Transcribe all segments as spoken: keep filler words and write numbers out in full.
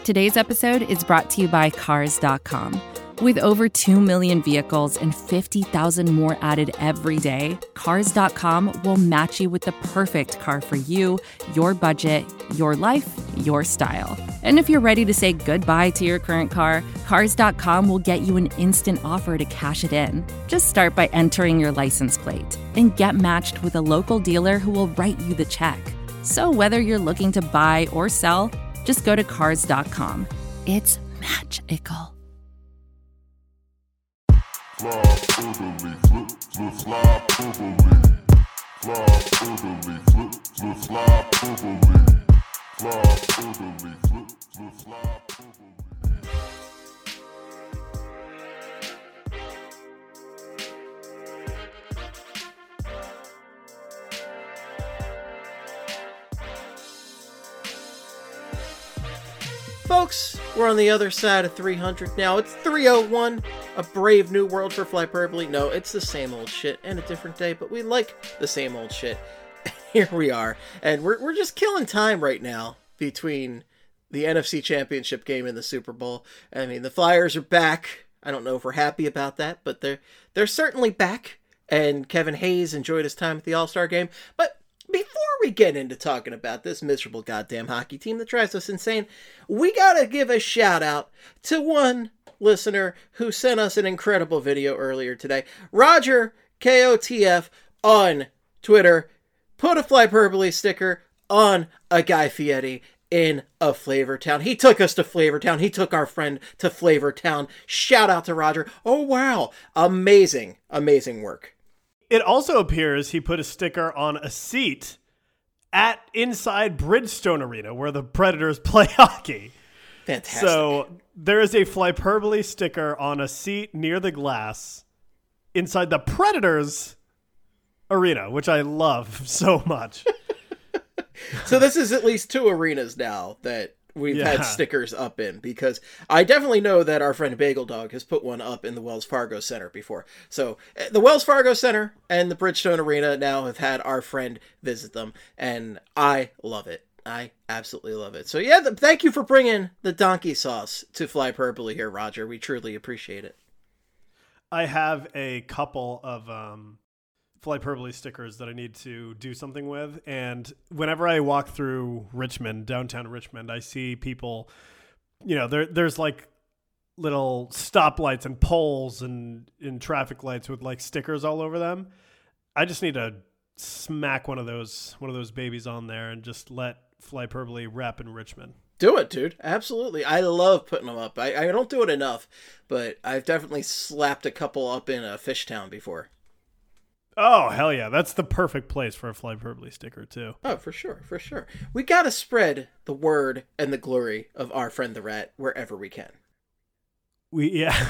Today's episode is brought to you by Cars dot com. With over two million vehicles and fifty thousand more added every day, Cars dot com will match you with the perfect car for you, your budget, your life, your style. And if you're ready to say goodbye to your current car, Cars dot com will get you an instant offer to cash it in. Just start by entering your license plate and get matched with a local dealer who will write you the check. So whether you're looking to buy or sell, just go to Cars dot com. It's magical. Fly orderly, flip, flip, fly orderly. Fly orderly, flip, flip, fly orderly. Fly orderly, flip, flip, fly orderly. Folks, we're on the other side of three hundred now. It's three oh one, a brave new world for Flyperbole. No, it's the same old shit and a different day, but we like the same old shit. Here we are, and we're we're just killing time right now between the N F C Championship game and the Super Bowl. I mean, the Flyers are back. I don't know if we're happy about that, but they're they're certainly back. And Kevin Hayes enjoyed his time at the All-Star game, but before we get into talking about this miserable goddamn hockey team that drives us insane, we gotta give a shout out to one listener who sent us an incredible video earlier today. Roger K O T F on Twitter put a Flyperbole sticker on a Guy Fieri in a Flavortown. He took us to Flavortown. He took our friend to Flavortown. Shout out to Roger. Oh wow, amazing, amazing work. It also appears he put a sticker on a seat at inside Bridgestone Arena where the Predators play hockey. Fantastic. So there is a Flyperbole sticker on a seat near the glass inside the Predators Arena, which I love so much. So this is at least two arenas now that we've Yeah. had stickers up in, because I definitely know that our friend Bagel Dog has put one up in the Wells Fargo Center before. So uh, the Wells Fargo Center and the Bridgestone Arena now have had our friend visit them, and I love it. I absolutely love it. So yeah, the, thank you for bringing the donkey sauce to Flyperbole here, Roger. We truly appreciate it. I have a couple of um, Flyperbole stickers that I need to do something with. And whenever I walk through Richmond, downtown Richmond, I see people, you know, there there's like little stoplights and poles and in traffic lights with like stickers all over them. I just need to smack one of those one of those babies on there and just let Flyperbole rep in Richmond. Do it, dude. Absolutely. I love putting them up. I, I don't do it enough, but I've definitely slapped a couple up in a Fishtown before. Oh, hell yeah. That's the perfect place for a Flyperbole sticker, too. Oh, for sure, for sure. We gotta spread the word and the glory of our friend the Rat wherever we can. We, yeah.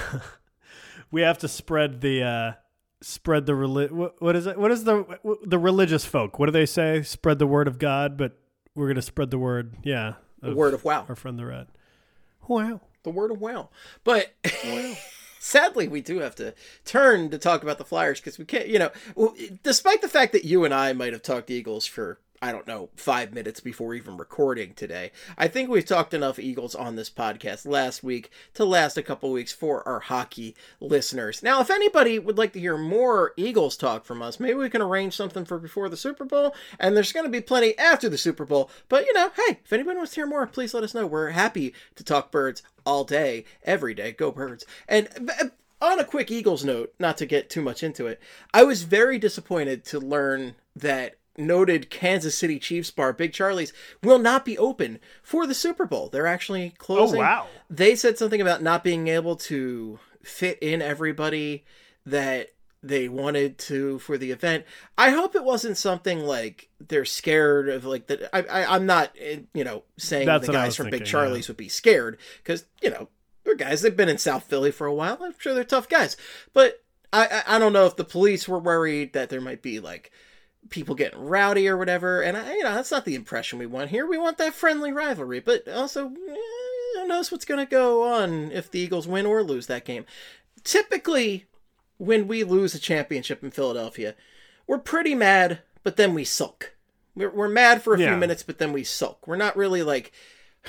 we have to spread the, uh, spread the, reli- what, what is it? What is the, the religious folk? What do they say? Spread the word of God, but we're going to spread the word, yeah. The word of wow. Our friend the Rat. Wow. The word of wow. But wow. Sadly, we do have to turn to talk about the Flyers because we can't, you know, despite the fact that you and I might have talked Eagles for, I don't know, five minutes before even recording today, I think we've talked enough Eagles on this podcast last week to last a couple weeks for our hockey listeners. Now, if anybody would like to hear more Eagles talk from us, maybe we can arrange something for before the Super Bowl, and there's going to be plenty after the Super Bowl. But, you know, hey, if anybody wants to hear more, please let us know. We're happy to talk birds all day, every day. Go Birds. And on a quick Eagles note, not to get too much into it, I was very disappointed to learn that noted Kansas City Chiefs bar, Big Charlie's, will not be open for the Super Bowl. They're actually closing. Oh, wow. They said something about not being able to fit in everybody that they wanted to for the event. I hope it wasn't something like they're scared of, like, that. I, I, I'm not, you know, saying That's the guys from thinking, Big Charlie's yeah. would be scared, because, you know, they're guys, they've been in South Philly for a while. I'm sure they're tough guys. But I, I, I don't know if the police were worried that there might be, like, people getting rowdy or whatever, and I, you know, that's not the impression we want here. We want that friendly rivalry, but also, eh, who knows what's going to go on if the Eagles win or lose that game. Typically, when we lose a championship in Philadelphia, we're pretty mad, but then we sulk. We're, we're mad for a yeah. few minutes, but then we sulk. We're not really like,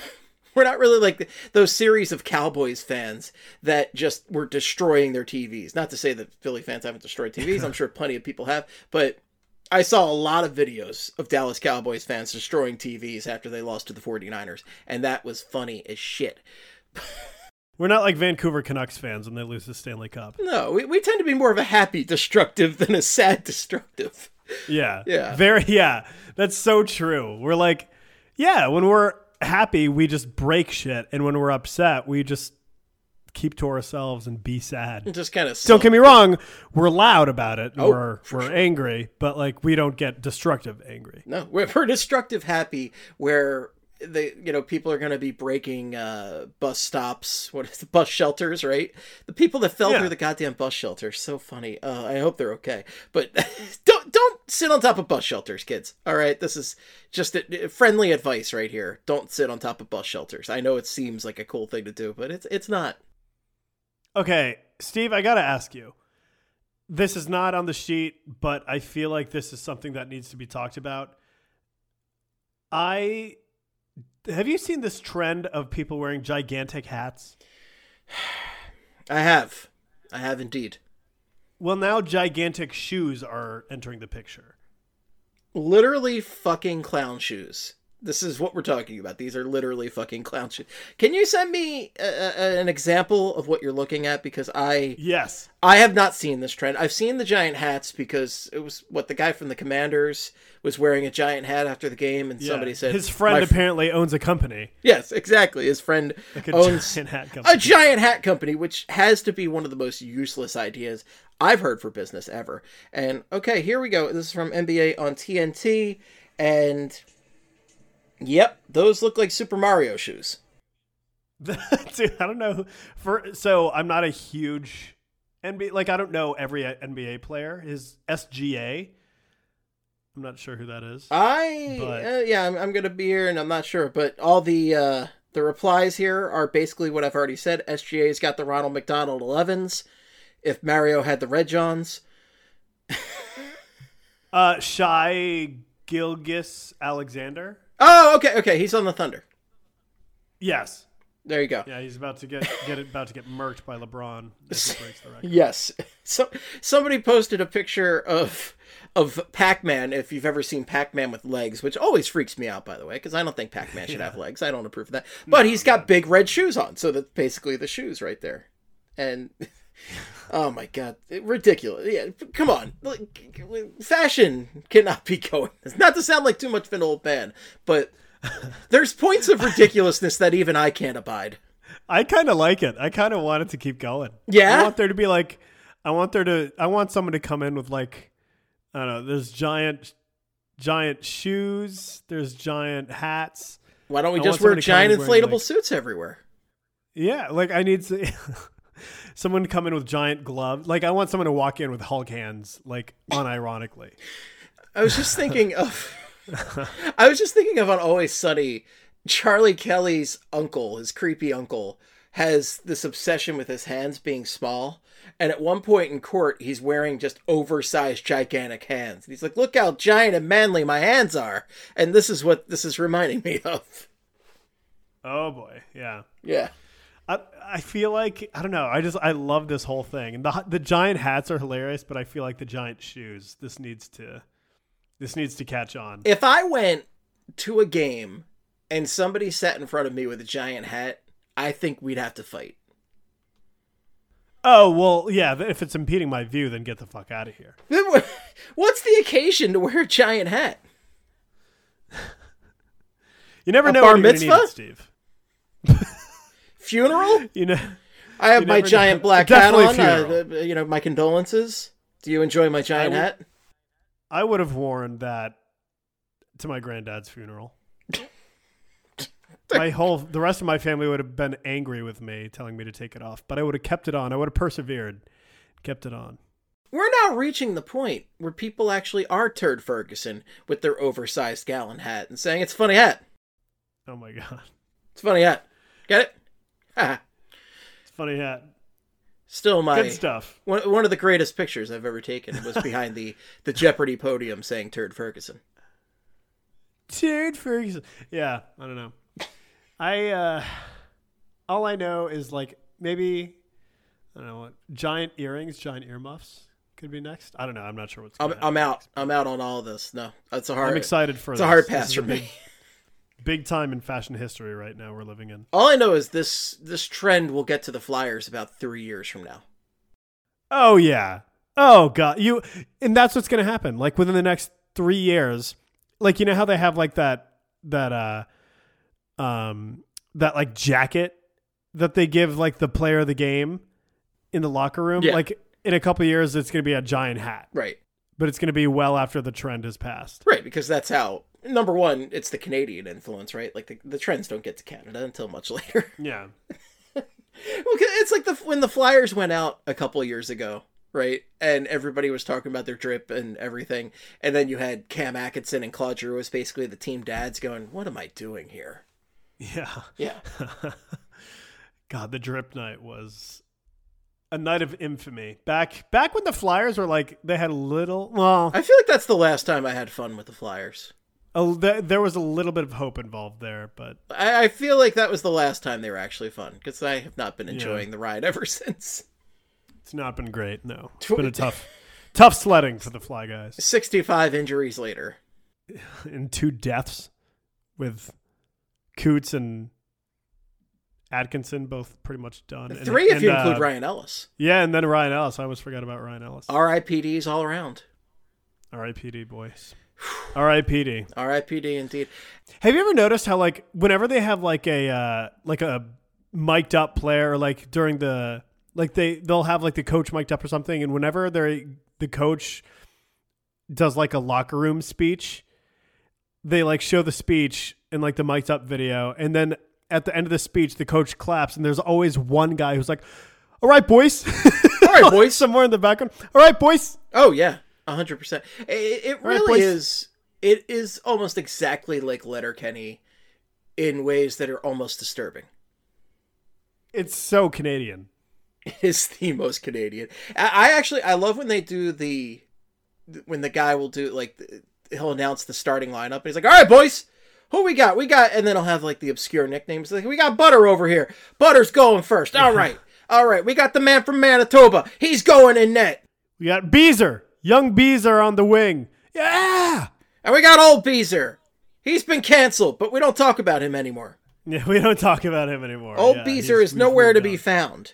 We're not really like those series of Cowboys fans that just were destroying their T Vs. Not to say that Philly fans haven't destroyed T Vs. I'm sure plenty of people have. But I saw a lot of videos of Dallas Cowboys fans destroying T Vs after they lost to the 49ers. And that was funny as shit. We're not like Vancouver Canucks fans when they lose the Stanley Cup. No, we, we tend to be more of a happy destructive than a sad destructive. Yeah. Yeah. Very, yeah. That's so true. We're like, yeah, when we're happy, we just break shit. And when we're upset, we just keep to ourselves and be sad. Just kind of. Don't get me wrong. We're loud about it. Oh, we're we're sure. angry, but like we don't get destructive angry. No, we're, we're destructive happy where they, you know, people are going to be breaking uh, bus stops, what is the bus shelters, right? The people that fell Yeah. through the goddamn bus shelters, so funny. Uh, I hope they're okay. But don't don't sit on top of bus shelters, kids. All right, this is just a, a friendly advice right here. Don't sit on top of bus shelters. I know it seems like a cool thing to do, but it's it's not. Okay, Steve, I got to ask you. This is not on the sheet, but I feel like this is something that needs to be talked about. I have you seen this trend of people wearing gigantic hats? I have. I have indeed. Well, now gigantic shoes are entering the picture. Literally fucking clown shoes. This is what we're talking about. These are literally fucking clown shoes. Can you send me a, a, an example of what you're looking at? Because I Yes. I have not seen this trend. I've seen the giant hats because it was what the guy from the Commanders was wearing a giant hat after the game, and Yeah. somebody said his friend "My fr-" apparently owns a company, Yes, exactly. His friend like a owns giant hat company. a giant hat company, which has to be one of the most useless ideas I've heard for business ever. And okay, here we go. This is from N B A on T N T, and yep, those look like Super Mario shoes. Dude, I don't know. For so I'm not a huge N B A, like I don't know every N B A player. His S G A. I'm not sure who that is. I But- uh, yeah, I'm, I'm gonna be here, and I'm not sure, but all the uh, the replies here are basically what I've already said. S G A's got the Ronald McDonald elevens. If Mario had the Red Johns, Uh, Shai Gilgis Alexander. oh, okay, okay, he's on the Thunder. Yes. There you go. Yeah, he's about to get get about to get murked by LeBron as he breaks the record. Yes. So somebody posted a picture of of Pac-Man, if you've ever seen Pac-Man with legs, which always freaks me out, by the way, because I don't think Pac-Man should have legs. I don't approve of that. But he's got big red shoes on, so that's basically the shoes right there. And oh my god, ridiculous! Yeah, come on, like, fashion cannot be going. Not to sound like too much of an old man, but there's points of ridiculousness that even I can't abide. I kind of like it. I kind of want it to keep going. Yeah? I want there to be like, I want there to, I want someone to come in with like, I don't know, there's giant, giant shoes, there's giant hats. Why don't we I just want wear somebody to come in giant wearing, inflatable like- suits everywhere? Yeah, like I need to, someone to come in with giant gloves. Like I want someone to walk in with Hulk hands, like unironically. I was just thinking of, I was just thinking of on Always Sunny, Charlie Kelly's uncle, his creepy uncle, has this obsession with his hands being small. And at one point in court, he's wearing just oversized, gigantic hands. And he's like, look how giant and manly my hands are. And this is what this is reminding me of. Oh boy, yeah. Yeah. I I feel like I don't know. I just I love this whole thing, and the the giant hats are hilarious, but I feel like the giant shoes. This needs to, this needs to catch on. If I went to a game and somebody sat in front of me with a giant hat, I think we'd have to fight. Oh well, yeah. If it's impeding my view, then get the fuck out of here. What's the occasion to wear a giant hat? You never A know bar when you're gonna need mitzvah? it, Steve. Funeral? You know, I have You my never giant know. black hat Definitely on. funeral. Uh, you know, my condolences. Do you enjoy my giant I w- hat? I would have worn that to my granddad's funeral. My whole, the rest of my family would have been angry with me, telling me to take it off. But I would have kept it on. I would have persevered, kept it on. We're now reaching the point where people actually are Turd Ferguson with their oversized gallon hat and saying it's a funny hat. Oh my god, It's a funny hat. Get it? Haha. it's a funny hat. Still my Good stuff. one, one of the greatest pictures I've ever taken was behind the, the Jeopardy podium saying Turd Ferguson. Turd Ferguson. Yeah, I don't know. I uh, all I know is like maybe I don't know what giant earrings, giant earmuffs could be next. I don't know. I'm not sure what's. I'm, gonna I'm happen out. next. I'm out on all of this. No, that's a hard. I'm excited for. It's this. a hard This pass is for a big, me. big time in fashion history right now. We're living in. All I know is this this trend will get to the Flyers about three years from now. Oh yeah. Oh god. You and that's what's gonna happen. Like within the next three years, like you know how they have like that that uh um that like jacket that they give like the player of the game in the locker room. Yeah. Like in a couple of years, it's gonna be a giant hat. Right. But it's gonna be well after the trend has passed. Right, because that's how. Number one, it's the Canadian influence, right? Like the the trends don't get to Canada until much later. Yeah. Well, it's like the when the Flyers went out a couple of years ago, right? And everybody was talking about their drip and everything. And then you had Cam Atkinson and Claude Giroux was basically the team dads going, what am I doing here? Yeah. Yeah. God, the drip night was a night of infamy. Back back when the Flyers were like, they had a little, well, I feel like that's the last time I had fun with the Flyers. a, th- there was a little bit of hope involved there, but I, I feel like that was the last time they were actually fun because I have not been enjoying Yeah. the ride ever since. it's not been great. No, it's been a tough, tough sledding for the Fly Guys. sixty-five injuries later. And two deaths with Coots and Atkinson both pretty much done. And- Three if and, you uh, include Ryan Ellis. Yeah, and then Ryan Ellis. I almost forgot about Ryan Ellis. R I P Ds all around. R I P D, boys. R I P D. R I P D indeed. Have you ever noticed how like whenever they have like a uh, like a mic'd up player, or like during the like they they'll have like the coach mic'd up or something, and whenever they the coach does like a locker room speech, they like show the speech in like the mic'd up video, and then at the end of the speech, the coach claps, and there's always one guy who's like, "All right, boys." All right, boys. Somewhere in the background. All right, boys. Oh yeah, a hundred percent. It, it right, really boys. is. It is almost exactly like Letterkenny, in ways that are almost disturbing. It's so Canadian. It is the most Canadian. I, I actually I love when they do the when the guy will do like he'll announce the starting lineup and he's like, "All right, boys, who we got? We got," and then he'll have like the obscure nicknames. Like, we got Butter over here. Butter's going first. All right, all right. We got the man from Manitoba. He's going in net. We got Beezer, young Beezer on the wing. Yeah. And we got old Beezer. He's been canceled, but we don't talk about him anymore. Yeah, we don't talk about him anymore. Old yeah, Beezer he's- is we've nowhere to moved be on. found.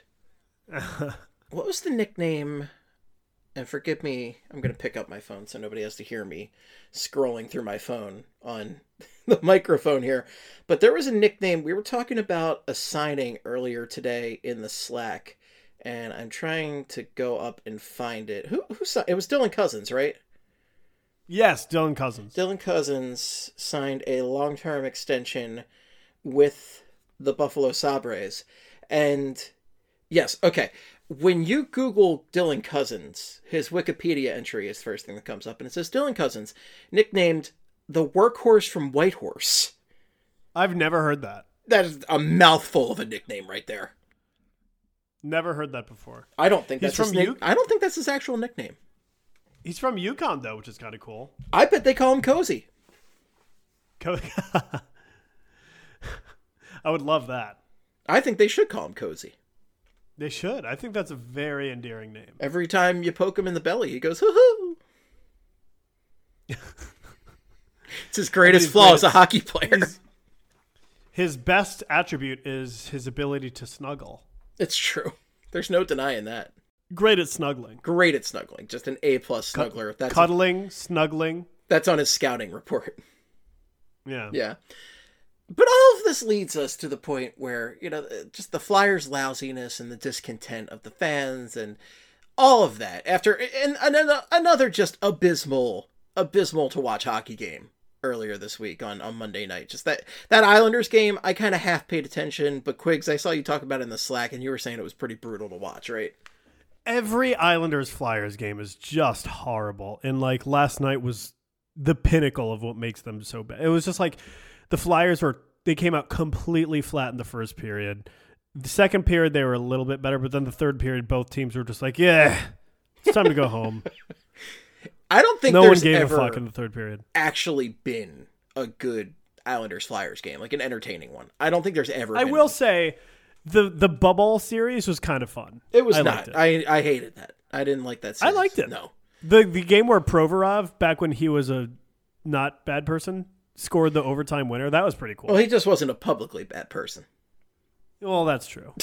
What was the nickname? And forgive me, I'm going to pick up my phone so nobody has to hear me scrolling through my phone on the microphone here. But there was a nickname. We were talking about a signing earlier today in the Slack, and I'm trying to go up and find it. Who who si- It was Dylan Cousins, right? Yes, Dylan Cousins. Dylan Cousins signed a long-term extension with the Buffalo Sabres. And yes, okay. When you Google Dylan Cousins, his Wikipedia entry is the first thing that comes up. And it says Dylan Cousins, nicknamed the workhorse from Whitehorse. I've never heard that. That is a mouthful of a nickname right there. Never heard that before. I don't think He's that's his from nick- U- I don't think that's his actual nickname. He's from Yukon, though, which is kind of cool. I bet they call him Cozy. Co- I would love that. I think they should call him Cozy. They should. I think that's a very endearing name. Every time you poke him in the belly, he goes, hoo-hoo. It's his greatest his flaw as a greatest- hockey player. His, his best attribute is his ability to snuggle. It's true. There's no denying that. Great at snuggling. Great at snuggling. Just an A-plus snuggler. That's, Cuddling, snuggling. that's on his scouting report. Yeah. Yeah. But all of this leads us to the point where, you know, just the Flyers' lousiness and the discontent of the fans and all of that after and, and another just abysmal, abysmal to watch hockey game earlier this week on, on Monday night. Just that, that Islanders game, I kind of half paid attention, but Quiggs, I saw you talk about it in the Slack and you were saying it was pretty brutal to watch, right? Every Islanders Flyers game is just horrible. And like last night was the pinnacle of what makes them so bad. It was just like the Flyers were, they came out completely flat in the first period. The second period, they were a little bit better, but then the third period, both teams were just like, yeah, it's time to go home. I don't think No one there's gave ever a fuck in the third period. actually been a good Islanders Flyers game, like an entertaining one. I don't think there's ever. I been will one. say, the the bubble series was kind of fun. It was I not. liked it. I I hated that. I didn't like that. Series. I liked it. No. The the game where Provorov, back when he was a not bad person, scored the overtime winner. That was pretty cool. Well, he just wasn't a publicly bad person. Well, that's true.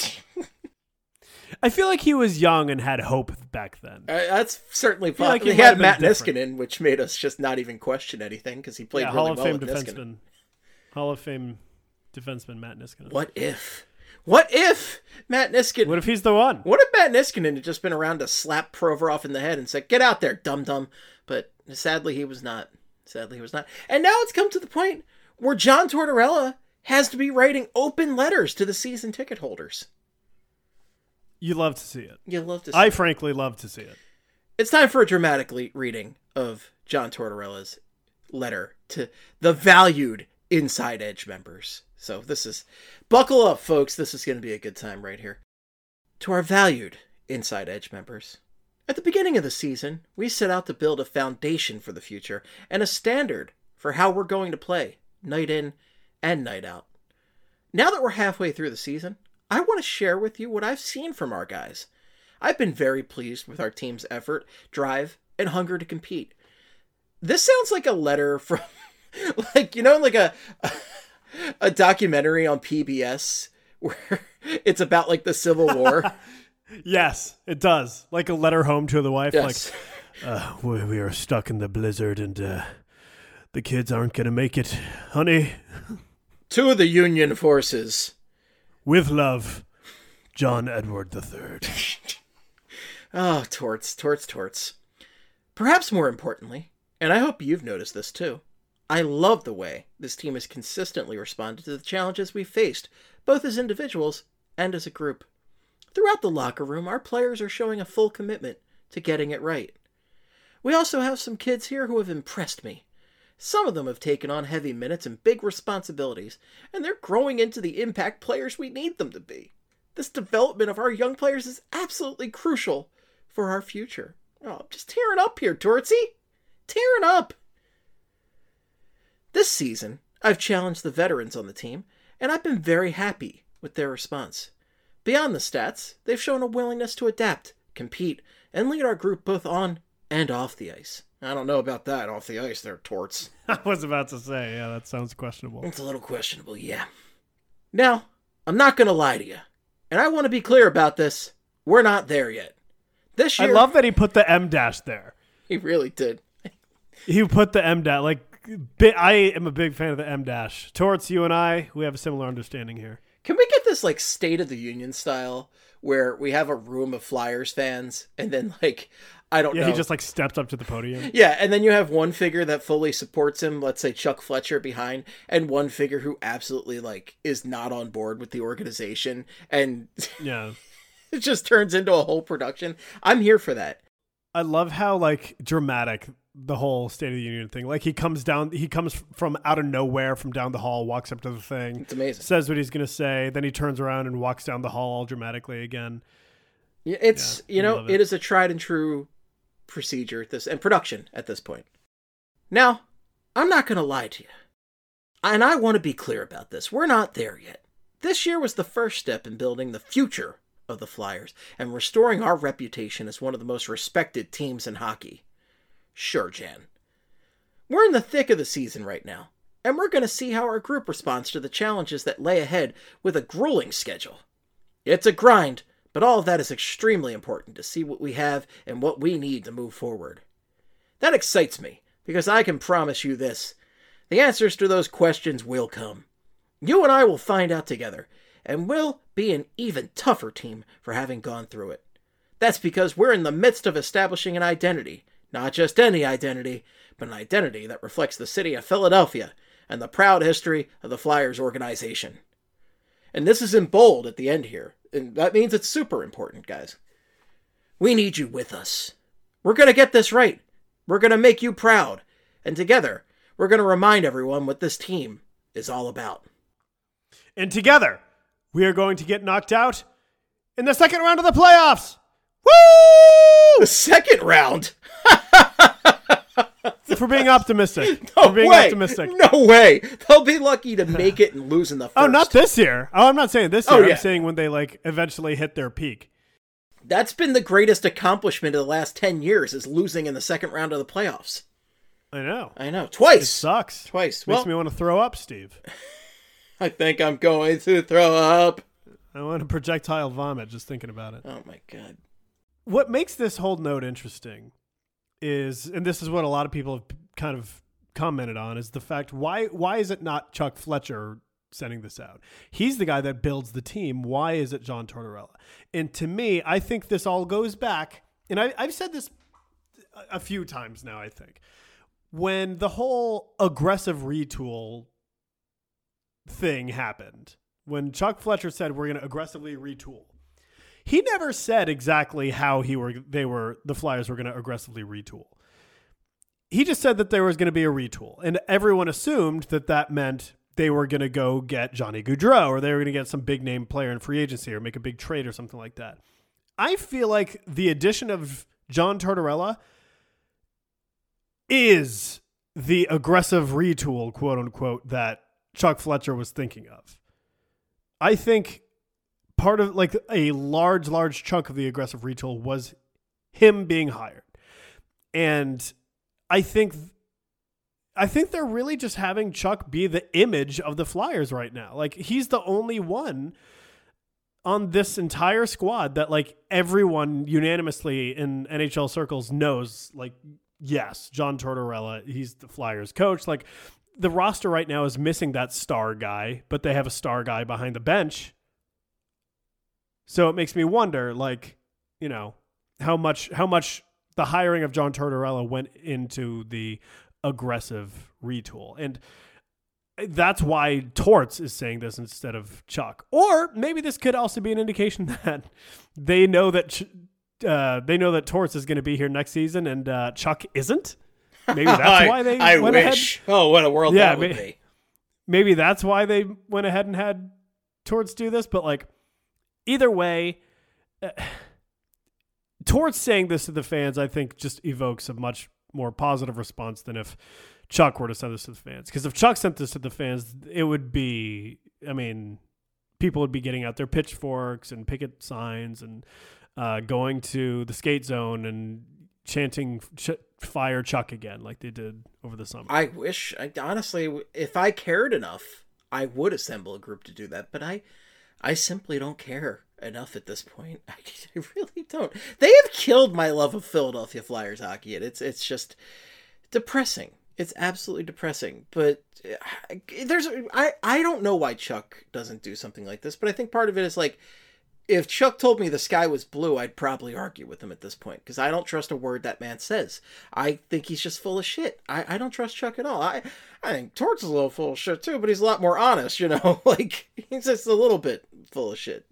I feel like he was young and had hope back then. Uh, that's certainly feel possible. like he he might had have Matt been different. Niskanen, which made us just not even question anything because he played Yeah, really Hall of well Fame with Niskanen. defenseman. Hall of Fame defenseman Matt Niskanen. What if? What if Matt Niskanen? What if he's the one? What if Matt Niskanen had just been around to slap Provorov in the head and said, "Get out there, dum dum"? But sadly, he was not. Sadly, he was not. And now it's come to the point where John Tortorella has to be writing open letters to the season ticket holders. You love to see it. You love to. See I it. frankly love to see it. It's time for a dramatic le- reading of John Tortorella's letter to the valued Inside Edge members. So this is, buckle up, folks. This is going to be a good time right here. To our valued Inside Edge members. At the beginning of the season, we set out to build a foundation for the future and a standard for how we're going to play, night in and night out. Now that we're halfway through the season, I want to share with you what I've seen from our guys. I've been very pleased with our team's effort, drive, and hunger to compete. This sounds like a letter from, like, you know, like a a documentary on P B S where it's about, like, the Civil War. Yes, it does. Like a letter home to the wife. Yes. Like, uh, we, we are stuck in the blizzard and uh, the kids aren't going to make it. Honey, To the Union forces. with love, John Edward the Third. Oh, torts, torts, torts. Perhaps more importantly, and I hope you've noticed this too, I love the way this team has consistently responded to the challenges we've faced, both as individuals and as a group. Throughout the locker room, our players are showing a full commitment to getting it right. We also have some kids here who have impressed me. Some of them have taken on heavy minutes and big responsibilities, and they're growing into the impact players we need them to be. This development of our young players is absolutely crucial for our future. Oh, I'm just tearing up here, Tortsy. Tearing up. This season, I've challenged the veterans on the team, and I've been very happy with their response. Beyond the stats, they've shown a willingness to adapt, compete, and lead our group both on and off the ice. I don't know about that off the ice there, Torts. I was about to say, yeah, that sounds questionable. It's a little questionable, yeah. Now, I'm not going to lie to you, and I want to be clear about this. We're not there yet. This I year, love that he put the M dash there. he really did. He put the M dash. Like, bi- I am a big fan of the M dash. Torts, you and I, we have a similar understanding here. Can we get this like State of the Union style where we have a room of Flyers fans and then like, I don't Yeah, know. he just like steps up to the podium. Yeah, and then you have one figure that fully supports him, let's say Chuck Fletcher behind, and one figure who absolutely like is not on board with the organization, and Yeah. it just turns into a whole production. I'm here for that. I love how like dramatic the whole State of the Union thing. Like he comes down, he comes from out of nowhere from down the hall, walks up to the thing, It's amazing. says what he's going to say, then he turns around and walks down the hall all dramatically again. Yeah, It's, Yeah, you I know, love it it. is a tried and true procedure at this and production at this point. Now, I'm not going to lie to you. And I want to be clear about this. We're not there yet. This year was the first step in building the future of the Flyers and restoring our reputation as one of the most respected teams in hockey. Sure, Jan. We're in the thick of the season right now, and we're going to see how our group responds to the challenges that lay ahead with a grueling schedule. It's a grind, but all of that is extremely important to see what we have and what we need to move forward. That excites me, because I can promise you this. The answers to those questions will come. You and I will find out together, and we'll be an even tougher team for having gone through it. That's because we're in the midst of establishing an identity, not just any identity, but an identity that reflects the city of Philadelphia and the proud history of the Flyers organization. And this is in bold at the end here, and that means it's super important, guys. We need you with us. We're going to get this right. We're going to make you proud. And together, we're going to remind everyone what this team is all about. And together, we are going to get knocked out in the second round of the playoffs. Woo! The second round? If we're being optimistic. No we're being way. optimistic. No way. They'll be lucky to make it and lose in the first. Oh, not this year. Oh, I'm not saying this year. Oh, yeah. I'm saying when they like eventually hit their peak. That's been the greatest accomplishment of the last ten years, is losing in the second round of the playoffs. I know. I know. Twice. It sucks. Twice. Makes Well, me want to throw up, Steve. I think I'm going to throw up. I want to projectile vomit just thinking about it. Oh, my God. What makes this whole note interesting is, and this is what a lot of people have kind of commented on, is the fact, why why is it not Chuck Fletcher sending this out? He's the guy that builds the team. Why is it John Tortorella? And to me, I think this all goes back, and I, I've said this a few times now, I think, when the whole aggressive retool thing happened, when Chuck Fletcher said we're going to aggressively retool, he never said exactly how he were they were the Flyers were going to aggressively retool. He just said that there was going to be a retool, and everyone assumed that that meant they were going to go get Johnny Gaudreau, or they were going to get some big name player in free agency, or make a big trade or something like that. I feel like the addition of John Tortorella is the aggressive retool, quote unquote, that Chuck Fletcher was thinking of. I think part of like a large, large chunk of the aggressive retool was him being hired. And I think, I think they're really just having Chuck be the image of the Flyers right now. Like, he's the only one on this entire squad that like everyone unanimously in N H L circles knows, like, yes, John Tortorella, he's the Flyers coach. Like, the roster right now is missing that star guy, but they have a star guy behind the bench. So it makes me wonder, like, you know, how much how much the hiring of John Tortorella went into the aggressive retool. And that's why Torts is saying this instead of Chuck. Or maybe this could also be an indication that they know that uh, they know that Torts is going to be here next season and uh, Chuck isn't. Maybe that's I, why they I went wish. ahead. Oh, what a world Yeah, that would may- be. Maybe that's why they went ahead and had Torts do this. But like, either way, uh, Torts saying this to the fans, I think, just evokes a much more positive response than if Chuck were to send this to the fans. Because if Chuck sent this to the fans, it would be, I mean, people would be getting out their pitchforks and picket signs and uh, going to the skate zone and chanting ch- fire Chuck again like they did over the summer. I wish, I, honestly, if I cared enough, I would assemble a group to do that. But I, I simply don't care enough at this point. I, I really don't. They have killed my love of Philadelphia Flyers hockey. And it's it's just depressing. It's absolutely depressing. But there's I, I don't know why Chuck doesn't do something like this. But I think part of it is like, if Chuck told me the sky was blue, I'd probably argue with him at this point, because I don't trust a word that man says. I think he's just full of shit. I, I don't trust Chuck at all. I, I think Torts is a little full of shit too, but he's a lot more honest, you know? Like, he's just a little bit full of shit.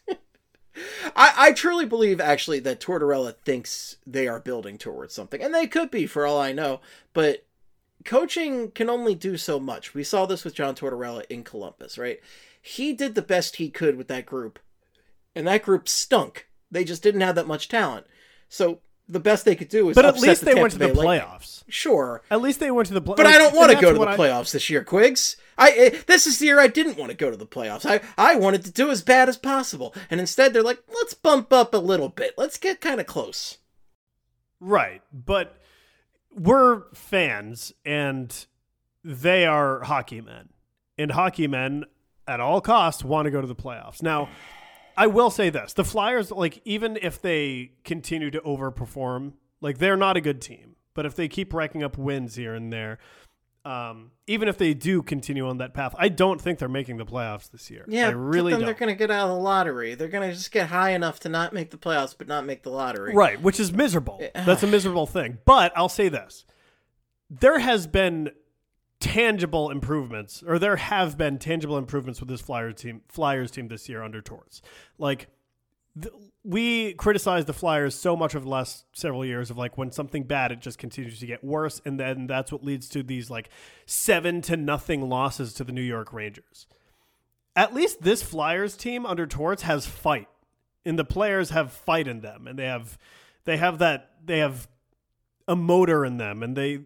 I, I truly believe, actually, that Tortorella thinks they are building towards something, and they could be, for all I know, but coaching can only do so much. We saw this with John Tortorella in Columbus, right? He did the best he could with that group. And that group stunk. They just didn't have that much talent. So the best they could do was but at upset least the they Tampa went to the Bay Lightning. playoffs. Sure. At least they went to the playoffs. But I don't want to go to the I... playoffs this year, Quiggs. I eh, This is the year I didn't want to go to the playoffs. I, I wanted to do as bad as possible. And instead they're like, let's bump up a little bit. Let's get kind of close. Right. But we're fans, and they are hockey men. And hockey men, at all costs, want to go to the playoffs. Now, I will say this. The Flyers, like, even if they continue to overperform, like, they're not a good team. But if they keep racking up wins here and there, um, even if they do continue on that path, I don't think they're making the playoffs this year. Yeah, I really then don't. they're going to get out of the lottery. They're going to just get high enough to not make the playoffs, but not make the lottery. Right, which is miserable. That's a miserable thing. But I'll say this. There has been tangible improvements, or there have been tangible improvements with this Flyers team, Flyers team this year under Torts. Like, th- we criticized the Flyers so much over the last several years of like, when something bad, it just continues to get worse, and then that's what leads to these like seven to nothing losses to the New York Rangers. At least this Flyers team under Torts has fight, and the players have fight in them, and they have they have that they have a motor in them, and they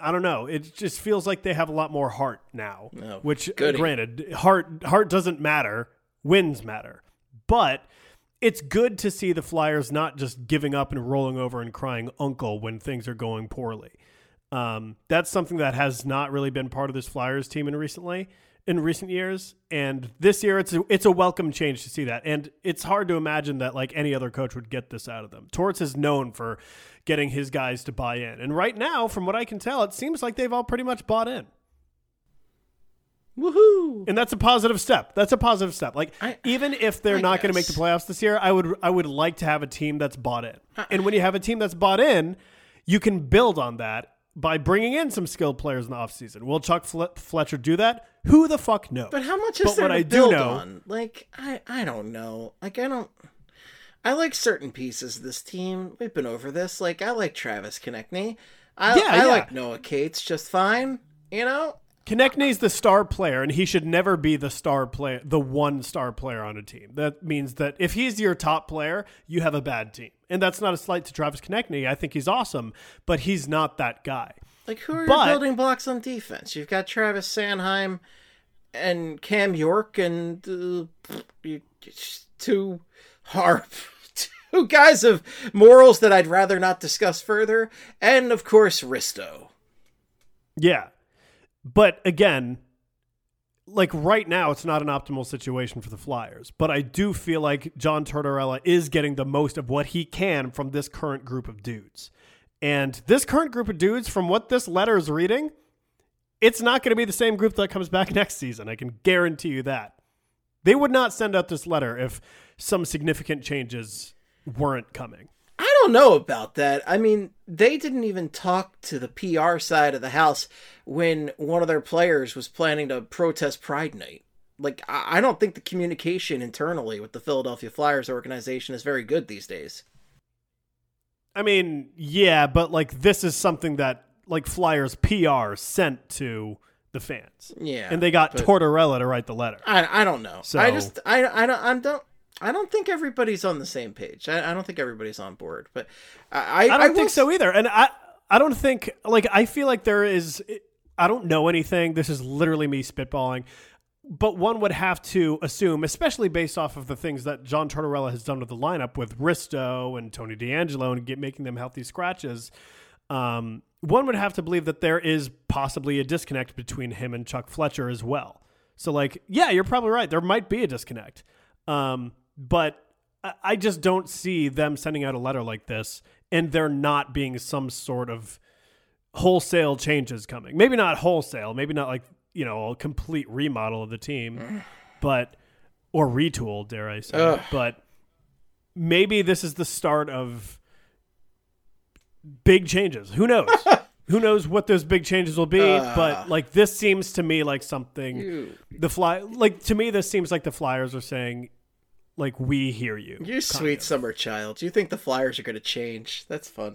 I don't know. It just feels like they have a lot more heart now, No, which goody. granted, heart, heart doesn't matter. Wins matter. But it's good to see the Flyers not just giving up and rolling over and crying uncle when things are going poorly. Um, that's something that has not really been part of this Flyers team in recently, in recent years. And this year it's a, it's a welcome change to see that. And it's hard to imagine that like any other coach would get this out of them. Torts is known for getting his guys to buy in. And right now, from what I can tell, it seems like they've all pretty much bought in. Woohoo! And that's a positive step. That's a positive step. Like I, even if they're I not going to make the guess. playoffs this year, I would I would like to have a team that's bought in. Uh, And when you have a team that's bought in, you can build on that by bringing in some skilled players in the offseason. Will Chuck Fle- Fletcher do that? Who the fuck knows? But how much is But there what to I do build know- on? Like, I, I don't know. Like, I don't... I like certain pieces of this team. We've been over this. Like, I like Travis Konechny. I, Yeah, I yeah. like Noah Cates just fine. You know? Konechny's the star player, and he should never be the star player, the one star player on a team. That means that if he's your top player, you have a bad team. And that's not a slight to Travis Konechny. I think he's awesome, but he's not that guy. Like, who are But- your building blocks on defense? You've got Travis Sanheim and Cam York and uh, you- two harp. Two guys of morals that I'd rather not discuss further. And, of course, Risto. Yeah. But again, like right now, it's not an optimal situation for the Flyers. But I do feel like John Tortorella is getting the most of what he can from this current group of dudes. And this current group of dudes, from what this letter is reading, it's not going to be the same group that comes back next season. I can guarantee you that. They would not send out this letter if some significant changes weren't coming. I don't know about that. I mean, they didn't even talk to the P R side of the house when one of their players was planning to protest Pride Night. Like, I I don't think the communication internally with the Philadelphia Flyers organization is very good these days. I mean, yeah, but like this is something that like Flyers P R sent to the fans. Yeah. And they got but Tortorella to write the letter. I, I don't know. So- I just, I, I don't, I don't, I don't think everybody's on the same page. I, I don't think everybody's on board, but I, I, I don't will think s- so either. And I I don't think like I feel like there is I don't know anything. This is literally me spitballing. But one would have to assume, especially based off of the things that John Tortorella has done with the lineup with Risto and Tony DeAngelo and get making them healthy scratches, um, one would have to believe that there is possibly a disconnect between him and Chuck Fletcher as well. So like, yeah, you're probably right. There might be a disconnect. Um, but I- I just don't see them sending out a letter like this and there not being some sort of wholesale changes coming. Maybe not wholesale, maybe not like, you know, a complete remodel of the team, but, or retool, dare I say, Ugh. but maybe this is the start of big changes. Who knows? Who knows what those big changes will be? Uh. But like, this seems to me like something You, the fly, like to me, this seems like the Flyers are saying, like, we hear you. you kind sweet of. summer child. You think the Flyers are going to change? That's fun.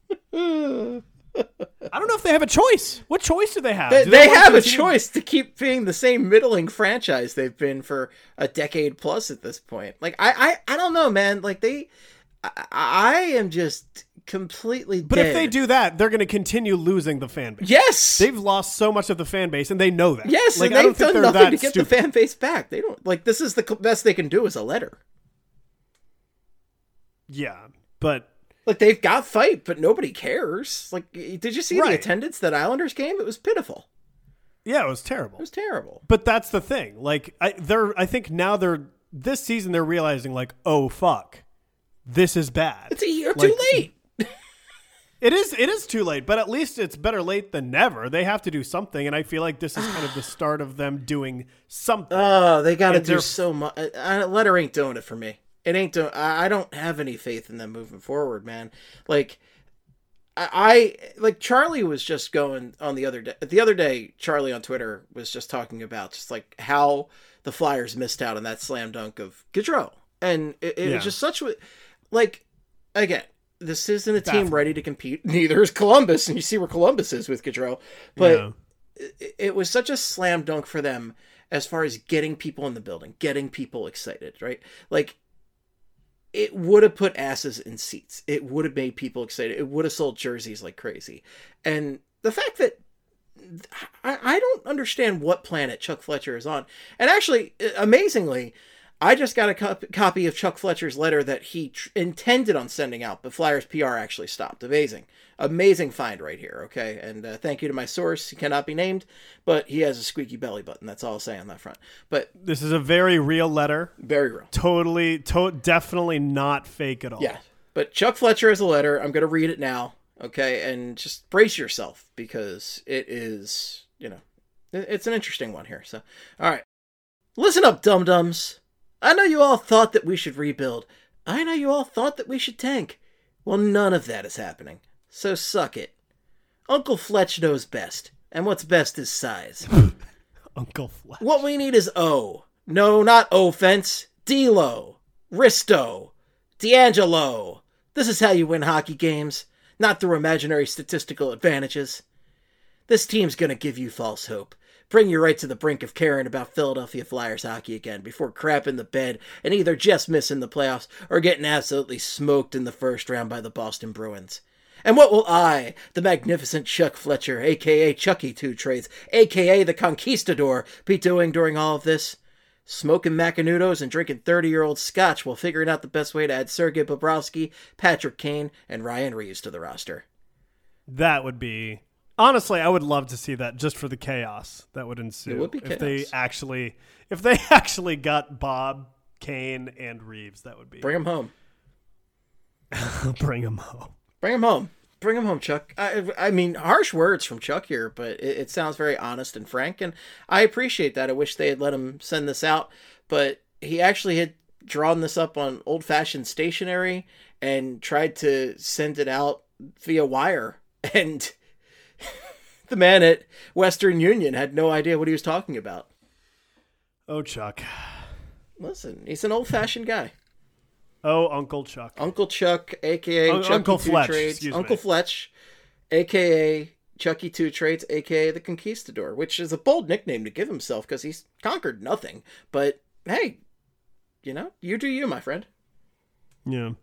I don't know if they have a choice. What choice do they have? They, Do they want have to a continue- choice to keep being the same middling franchise they've been for a decade plus at this point. Like, I, I, I don't know, man. Like, they, I, I am just completely But dead. if they do that, they're going to continue losing the fan base. yes, They've lost so much of the fan base, and they know that. yes, like, and I don't they've think done they're nothing that to get stupid. the fan base back. They don't, like, this is the cl- best they can do is a letter. Yeah, but Like, they've got fight, but nobody cares. Like, did you see the Right. attendance that Islanders game? It was pitiful. yeah, it was It terrible. was terrible. But that's the thing. Like, I, they're, I think now they're this season they're realizing like, oh fuck, this is bad. It's a year Like, too late. It is it is too late, but at least it's better late than never. They have to do something, and I feel like this is kind of the start of them doing something. Oh, they got to And do they're- so much. A letter ain't doing it for me. It ain't doing. I I don't have any faith in them moving forward, man. Like, I, I like Charlie was just going on the other day. The other day, Charlie on Twitter was just talking about just like how the Flyers missed out on that slam dunk of Gaudreau, and it, it Yeah. was just such a like. Again, this isn't a team Baffling. ready to compete. Neither is Columbus, and you see where Columbus is with Gaudreau. But Yeah. it, it was such a slam dunk for them as far as getting people in the building, getting people excited, right? Like, it would have put asses in seats. It would have made people excited. It would have sold jerseys like crazy. And the fact that I, I don't understand what planet Chuck Fletcher is on. And actually, amazingly, I just got a cop- copy of Chuck Fletcher's letter that he tr- intended on sending out, but Flyers P R actually stopped. Amazing. Amazing find right here, okay? And uh, thank you to my source. He cannot be named, but he has a squeaky belly button. That's all I'll say on that front. But this is a very real letter. Very real. Totally, to- definitely not fake at all. Yeah. But Chuck Fletcher has a letter. I'm going to read it now, okay? And just brace yourself, because it is, you know, it's an interesting one here. So, all right. Listen up, dum-dums. I know you all thought that we should rebuild. I know you all thought that we should tank. Well, none of that is happening. So suck it. Uncle Fletch knows best. And what's best is size. Uncle Fletch. What we need is O. No, not offense. D-Lo. Risto. D'Angelo. This is how you win hockey games. Not through imaginary statistical advantages. This team's gonna give you false hope. Bring you right to the brink of caring about Philadelphia Flyers hockey again before crapping the bed and either just missing the playoffs or getting absolutely smoked in the first round by the Boston Bruins. And what will I, the magnificent Chuck Fletcher, a k a. Chucky Two Trades, a k a the Conquistador, be doing during all of this? Smoking Macanudos and drinking thirty-year-old scotch while figuring out the best way to add Sergei Bobrovsky, Patrick Kane, and Ryan Reeves to the roster. That would be... Honestly, I would love to see that just for the chaos that would ensue. It would be if chaos. they actually, if they actually got Bob, Kane, and Reeves. That would be Bring him home. Bring him home. Bring him home. Bring him home, Chuck. I, I mean, harsh words from Chuck here, but it, it sounds very honest and frank, and I appreciate that. I wish they had let him send this out, but he actually had drawn this up on old-fashioned stationery and tried to send it out via wire, and the man at Western Union had no idea what he was talking about. Oh, Chuck. Listen, he's an old-fashioned guy. Oh, Uncle Chuck. Uncle Chuck, a k a. Un- Chucky Uncle Two Fletch, Trades. excuse Uncle me. Fletch, a k a. Chucky Two Trades, a k a the Conquistador, which is a bold nickname to give himself because he's conquered nothing. But, hey, you know, you do you, my friend. Yeah.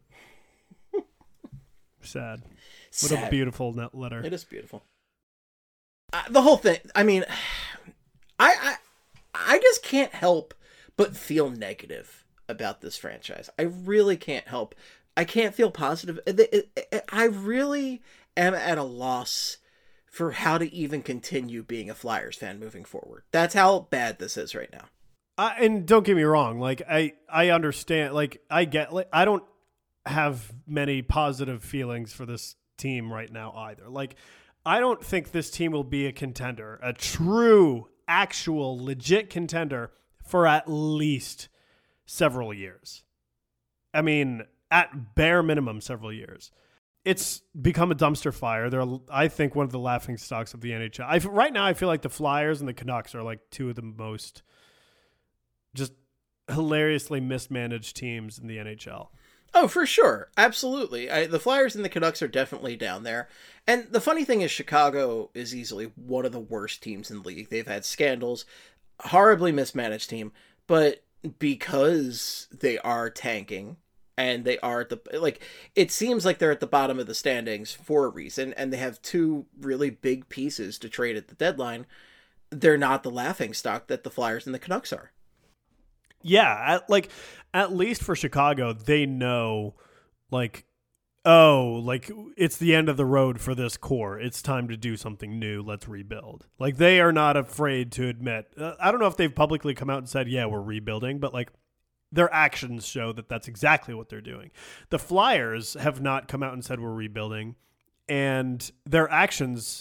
Sad. What Sad. a beautiful net letter. It is beautiful. Uh, the whole thing, I mean, I, I I just can't help but feel negative about this franchise. I really can't help. I can't feel positive. It- it- it- I really am at a loss for how to even continue being a Flyers fan moving forward. That's how bad this is right now. I, and don't get me wrong. Like I, I understand. Like I get. Like I don't have many positive feelings for this team right now either. Like I don't think this team will be a contender, a true, actual, legit contender for at least several years. I mean, at bare minimum, several years. It's become a dumpster fire. They're, I think, one of the laughing stocks of the N H L. I, right now, I feel like the Flyers and the Canucks are like two of the most just hilariously mismanaged teams in the N H L. Oh, for sure. Absolutely. I, the Flyers and the Canucks are definitely down there. And the funny thing is Chicago is easily one of the worst teams in the league. They've had scandals, horribly mismanaged team, but because they are tanking and they are at the, like, it seems like they're at the bottom of the standings for a reason, and they have two really big pieces to trade at the deadline. They're not the laughing stock that the Flyers and the Canucks are. Yeah, at, like at least for Chicago, they know, like, oh, like it's the end of the road for this core. It's time to do something new. Let's rebuild. Like they are not afraid to admit. Uh, I don't know if they've publicly come out and said, "Yeah, we're rebuilding," but like their actions show that that's exactly what they're doing. The Flyers have not come out and said we're rebuilding, and their actions,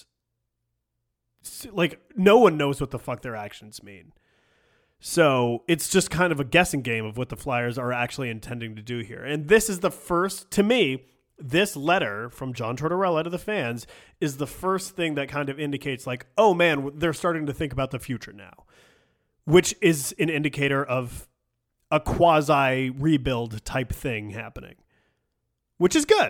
like no one knows what the fuck their actions mean. So it's just kind of a guessing game of what the Flyers are actually intending to do here. And this is the first, to me, this letter from John Tortorella to the fans is the first thing that kind of indicates like, oh man, they're starting to think about the future now, which is an indicator of a quasi rebuild type thing happening, which is good.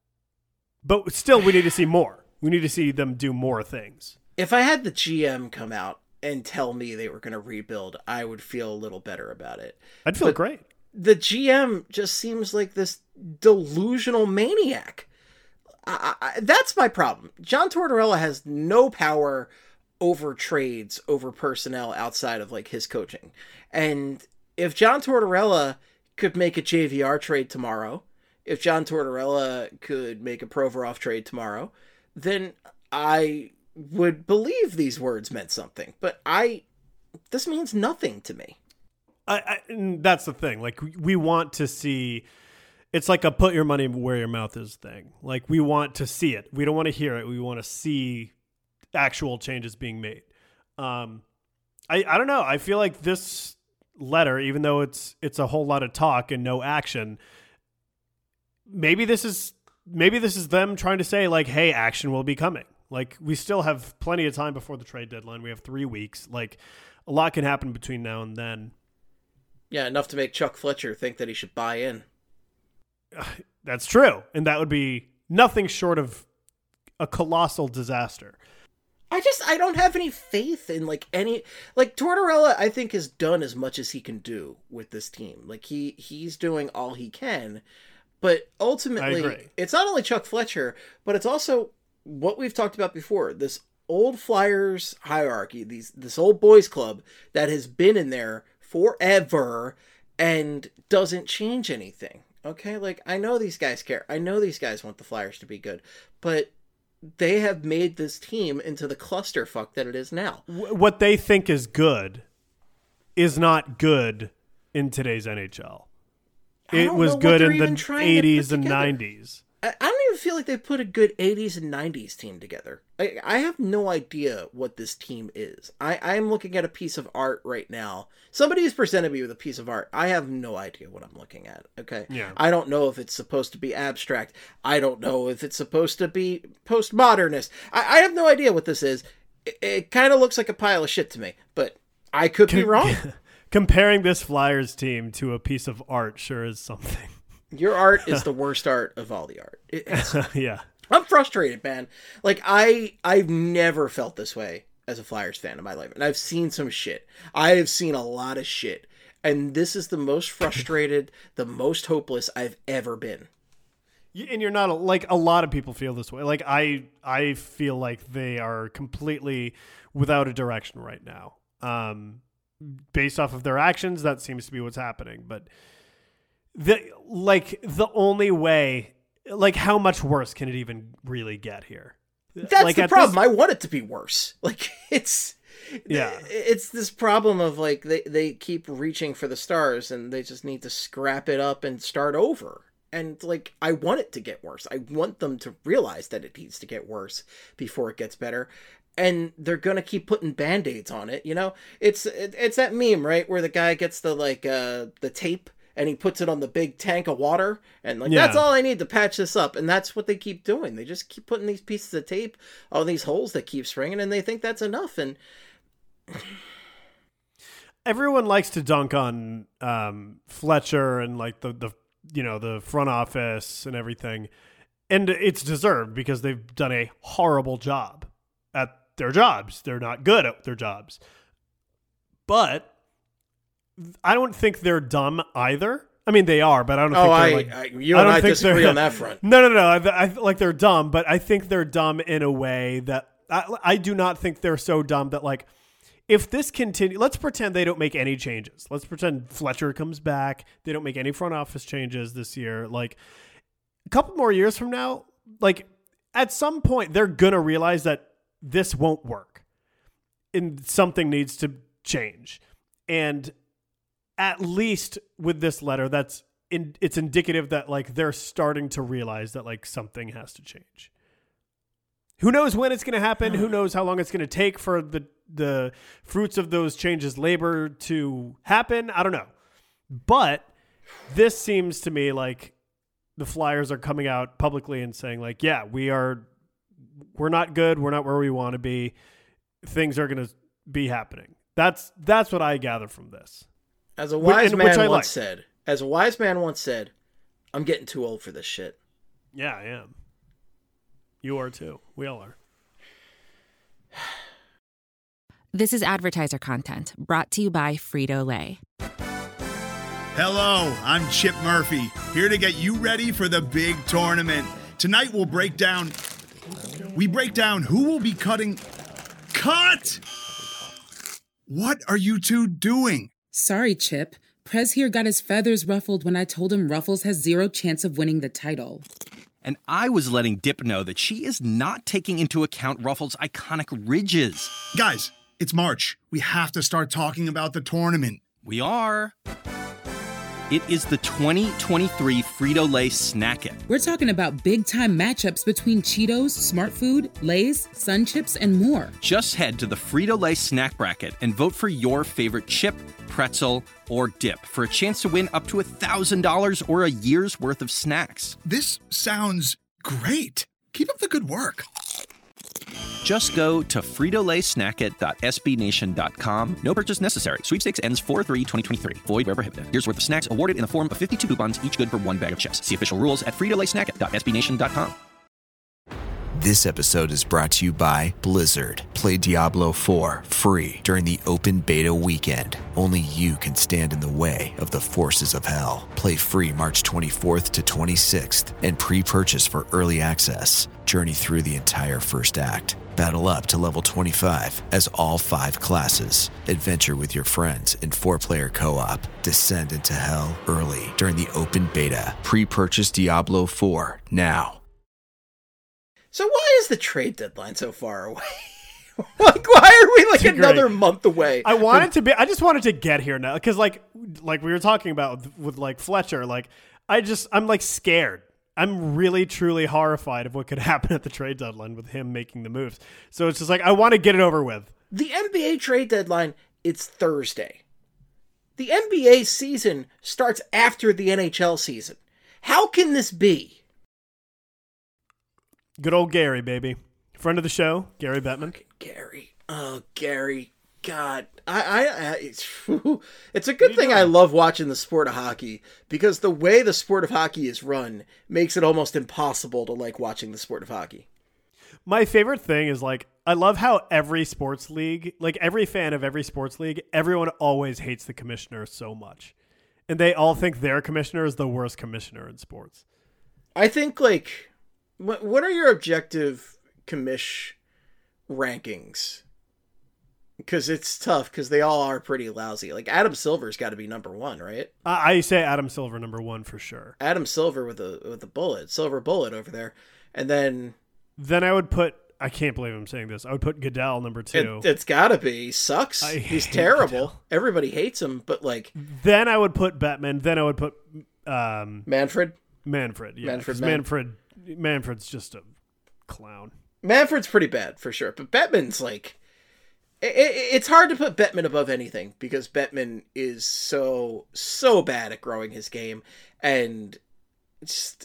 But still, we need to see more. We need to see them do more things. If I had the G M come out and tell me they were going to rebuild, I would feel a little better about it. I'd feel But great. the G M just seems like this delusional maniac. I, I, that's my problem. John Tortorella has no power over trades, over personnel outside of like his coaching. And if John Tortorella could make a J V R trade tomorrow, if John Tortorella could make a Provorov trade tomorrow, then I would believe these words meant something. But I, this means nothing to me. I, I that's the thing. Like we want to see, it's like a put your money where your mouth is thing. Like we want to see it. We don't want to hear it. We want to see actual changes being made. Um, I, I don't know. I feel like this letter, even though it's, it's a whole lot of talk and no action, maybe this is, maybe this is them trying to say like, hey, action will be coming. Like we still have plenty of time before the trade deadline. We have three weeks. Like a lot can happen between now and then. Yeah, enough to make Chuck Fletcher think that he should buy in. That's true. And that would be nothing short of a colossal disaster. I just, I don't have any faith in like any, like Tortorella, I think has done as much as he can do with this team. Like he, he's doing all he can, but ultimately it's not only Chuck Fletcher, but it's also what we've talked about before, this old Flyers hierarchy, these, this old boys club that has been in there forever and doesn't change anything. Okay. Like I know these guys care. I know these guys want the Flyers to be good, but they have made this team into the clusterfuck that it is now. What they think is good is not good in today's N H L. It was good in the eighties and nineties. I don't even feel like they put a good eighties and nineties team together. I, I have no idea what this team is. I, I'm looking at a piece of art right now. Somebody has presented me with a piece of art. I have no idea what I'm looking at. Okay. Yeah. I don't know if it's supposed to be abstract. I don't know if it's supposed to be postmodernist. I, I have no idea what this is. It, it kind of looks like a pile of shit to me, but I could be wrong. Comparing this Flyers team to a piece of art sure is something. Your art is the worst art of all the art. It, it's, yeah. I'm frustrated, man. Like, I, I've never felt this way as a Flyers fan in my life. And I've seen some shit. I have seen a lot of shit. And this is the most frustrated, the most hopeless I've ever been. And you're not, like, a lot of people feel this way. Like, I I feel like they are completely without a direction right now. Um, based off of their actions, that seems to be what's happening. But the like the only way, like how much worse can it even really get here? That's like the problem. This... I want it to be worse. Like it's yeah, it's this problem of like they they keep reaching for the stars and they just need to scrap it up and start over. And like I want it to get worse. I want them to realize that it needs to get worse before it gets better. And they're gonna keep putting band-aids on it. You know, it's it, it's that meme, right, where the guy gets the like uh the tape. And he puts it on the big tank of water. And like, yeah. That's all I need to patch this up. And that's what they keep doing. They just keep putting these pieces of tape on these holes that keep springing. And they think that's enough. And everyone likes to dunk on um, Fletcher and like the, the, you know, the front office and everything. And it's deserved because they've done a horrible job at their jobs. They're not good at their jobs. But I don't think they're dumb either. I mean, they are, but I don't oh, think I, they're like... I, you and I, I disagree on that front. No, no, no. I, I, like, they're dumb, but I think they're dumb in a way that... I, I do not think they're so dumb that, like, if this continues... Let's pretend they don't make any changes. Let's pretend Fletcher comes back. They don't make any front office changes this year. Like, a couple more years from now, like, at some point, they're going to realize that this won't work. And something needs to change. And... at least with this letter, that's in, it's indicative that like they're starting to realize that like something has to change. Who knows when it's going to happen? Who knows how long it's going to take for the the fruits of those changes labor to happen? I don't know. But this seems to me like the Flyers are coming out publicly and saying like, yeah, we are, we're not good. We're not where we want to be. Things are going to be happening. That's that's what I gather from this. As a wise which, man once like. said, as a wise man once said, I'm getting too old for this shit. Yeah, I am. You are too. We all are. This is advertiser content brought to you by Frito-Lay. Hello, I'm Chip Murphy, here to get you ready for the big tournament. Tonight we'll break down... We break down who will be cutting... Cut! What are you two doing? Sorry, Chip. Prez here got his feathers ruffled when I told him Ruffles has zero chance of winning the title. And I was letting Dip know that she is not taking into account Ruffles' iconic ridges. Guys, it's March. We have to start talking about the tournament. We are. It is the twenty twenty-three Frito-Lay Snack It. We're talking about big-time matchups between Cheetos, Smart Food, Lay's, Sun Chips, and more. Just head to the Frito-Lay Snack Bracket and vote for your favorite chip, pretzel, or dip for a chance to win up to one thousand dollars or a year's worth of snacks. This sounds great. Keep up the good work. Just go to frito lay snack it dot s b nation dot com. No purchase necessary. Sweepstakes ends four three twenty twenty-three. Void where prohibited. Here's worth of snacks awarded in the form of fifty-two coupons, each good for one bag of chips. See official rules at frito lay snack it dot s b nation dot com. This episode is brought to you by Blizzard. Play Diablo four free during the open beta weekend. Only you can stand in the way of the forces of hell. Play free March twenty-fourth to twenty-sixth and pre-purchase for early access. Journey through the entire first act. Battle up to level twenty-five as all five classes. Adventure with your friends in four-player co-op. Descend into hell early during the open beta. Pre-purchase Diablo four now. So why is the trade deadline so far away? Like, why are we like another great. month away? I wanted to be. I just wanted to get here now because, like, like we were talking about with, with like Fletcher. Like, I just, I'm like scared. I'm really, truly horrified of what could happen at the trade deadline with him making the moves. So it's just like I want to get it over with. The N B A trade deadline, it's Thursday. The N B A season starts after the N H L season. How can this be? Good old Gary, baby. Friend of the show, Gary Bettman. Gary. Oh, Gary. God. I, I, I it's, it's a good thing doing? I love watching the sport of hockey, because the way the sport of hockey is run makes it almost impossible to like watching the sport of hockey. My favorite thing is, like, I love how every sports league, like every fan of every sports league, everyone always hates the commissioner so much. And they all think their commissioner is the worst commissioner in sports. I think, like, what, what are your objective commish rankings? Because it's tough, because they all are pretty lousy. Like, Adam Silver's got to be number one, right? I, I say Adam Silver number one for sure. Adam Silver with a with a bullet, silver bullet over there. And then... Then I would put, I can't believe I'm saying this, I would put Goodell number two. It, it's got to be. He sucks. I He's hate terrible. Goodell. Everybody hates him, but, like... Then I would put Bettman. Then I would put um, Manfred? Manfred, yeah. Manfred, 'cause Man- Manfred, Manfred's just a clown. Manfred's pretty bad, for sure. But Bettman's, like... It, it, it's hard to put Bettman above anything, because Bettman is so, so bad at growing his game. And just...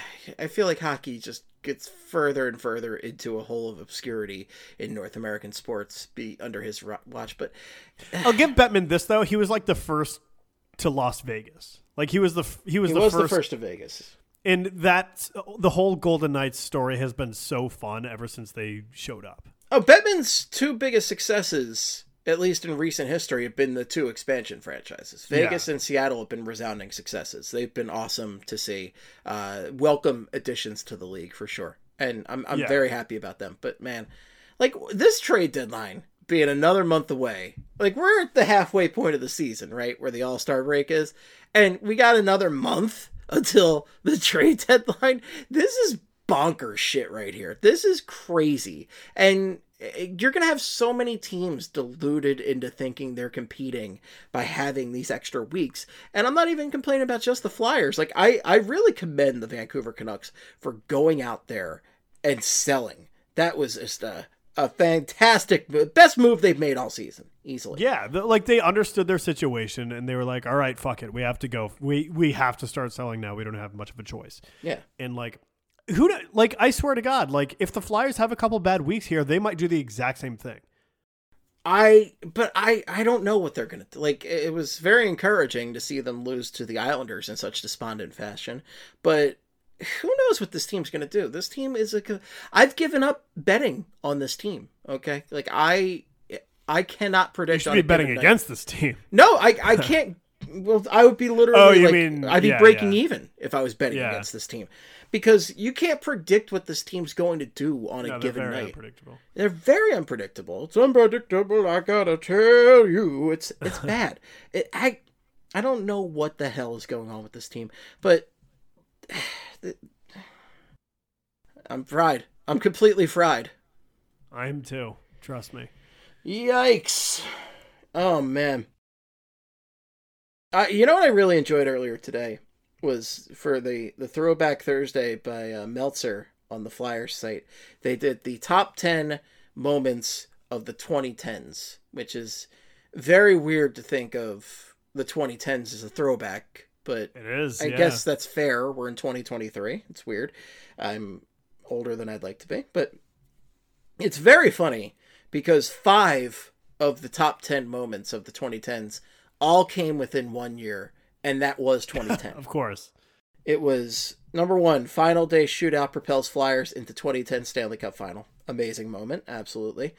I feel like hockey just gets further and further into a hole of obscurity in North American sports be under his watch. But I'll give Bettman this, though. He was like the first to Las Vegas. Like he was the he was, he the, was first, the first to Vegas. And that the whole Golden Knights story has been so fun ever since they showed up. Oh, Bettman's two biggest successes, at least in recent history, have been the two expansion franchises. Vegas yeah. and Seattle have been resounding successes. They've been awesome to see. Uh, welcome additions to the league, for sure. And I'm I'm yeah. very happy about them. But, man, like, this trade deadline being another month away, like, we're at the halfway point of the season, right, where the All-Star break is, and we got another month until the trade deadline. This is bonkers shit right here. This is crazy. And you're going to have so many teams deluded into thinking they're competing by having these extra weeks. And I'm not even complaining about just the Flyers. Like, I, I really commend the Vancouver Canucks for going out there and selling. That was just a, a fantastic move. Best move they've made all season, easily. Yeah, the, like they understood their situation and they were like, all right, fuck it. We have to go. We, we have to start selling now. We don't have much of a choice. Yeah. And like, Who like I swear to God, like if the Flyers have a couple bad weeks here, they might do the exact same thing. I but I I don't know what they're gonna do. Like, it was very encouraging to see them lose to the Islanders in such despondent fashion, but who knows what this team's gonna do? This team is a. I've given up betting on this team. Okay, like I I cannot predict. You should be betting against this team. No, I I can't. Well, I would be literally Oh, you like, mean- I'd be yeah, breaking yeah. even if I was betting Yeah. against this team. Because you can't predict what this team's going to do on a No, they're given very night. unpredictable. They're very unpredictable. It's unpredictable, I gotta tell you. It's it's bad. It, I I don't know what the hell is going on with this team, but I'm fried. I'm completely fried. I am too. Trust me. Yikes. Oh, man. Uh, you know what I really enjoyed earlier today was for the, the Throwback Thursday by uh, Meltzer on the Flyers site. They did the top ten moments of the twenty tens, which is very weird to think of the twenty tens as a throwback, but It is. I yeah. guess that's fair. We're in twenty twenty-three. It's weird. I'm older than I'd like to be, but it's very funny because five of the top ten moments of the twenty tens all came within one year, and that was twenty ten. Of course. It was number one, final day shootout propels Flyers into twenty ten Stanley Cup final. Amazing moment, absolutely.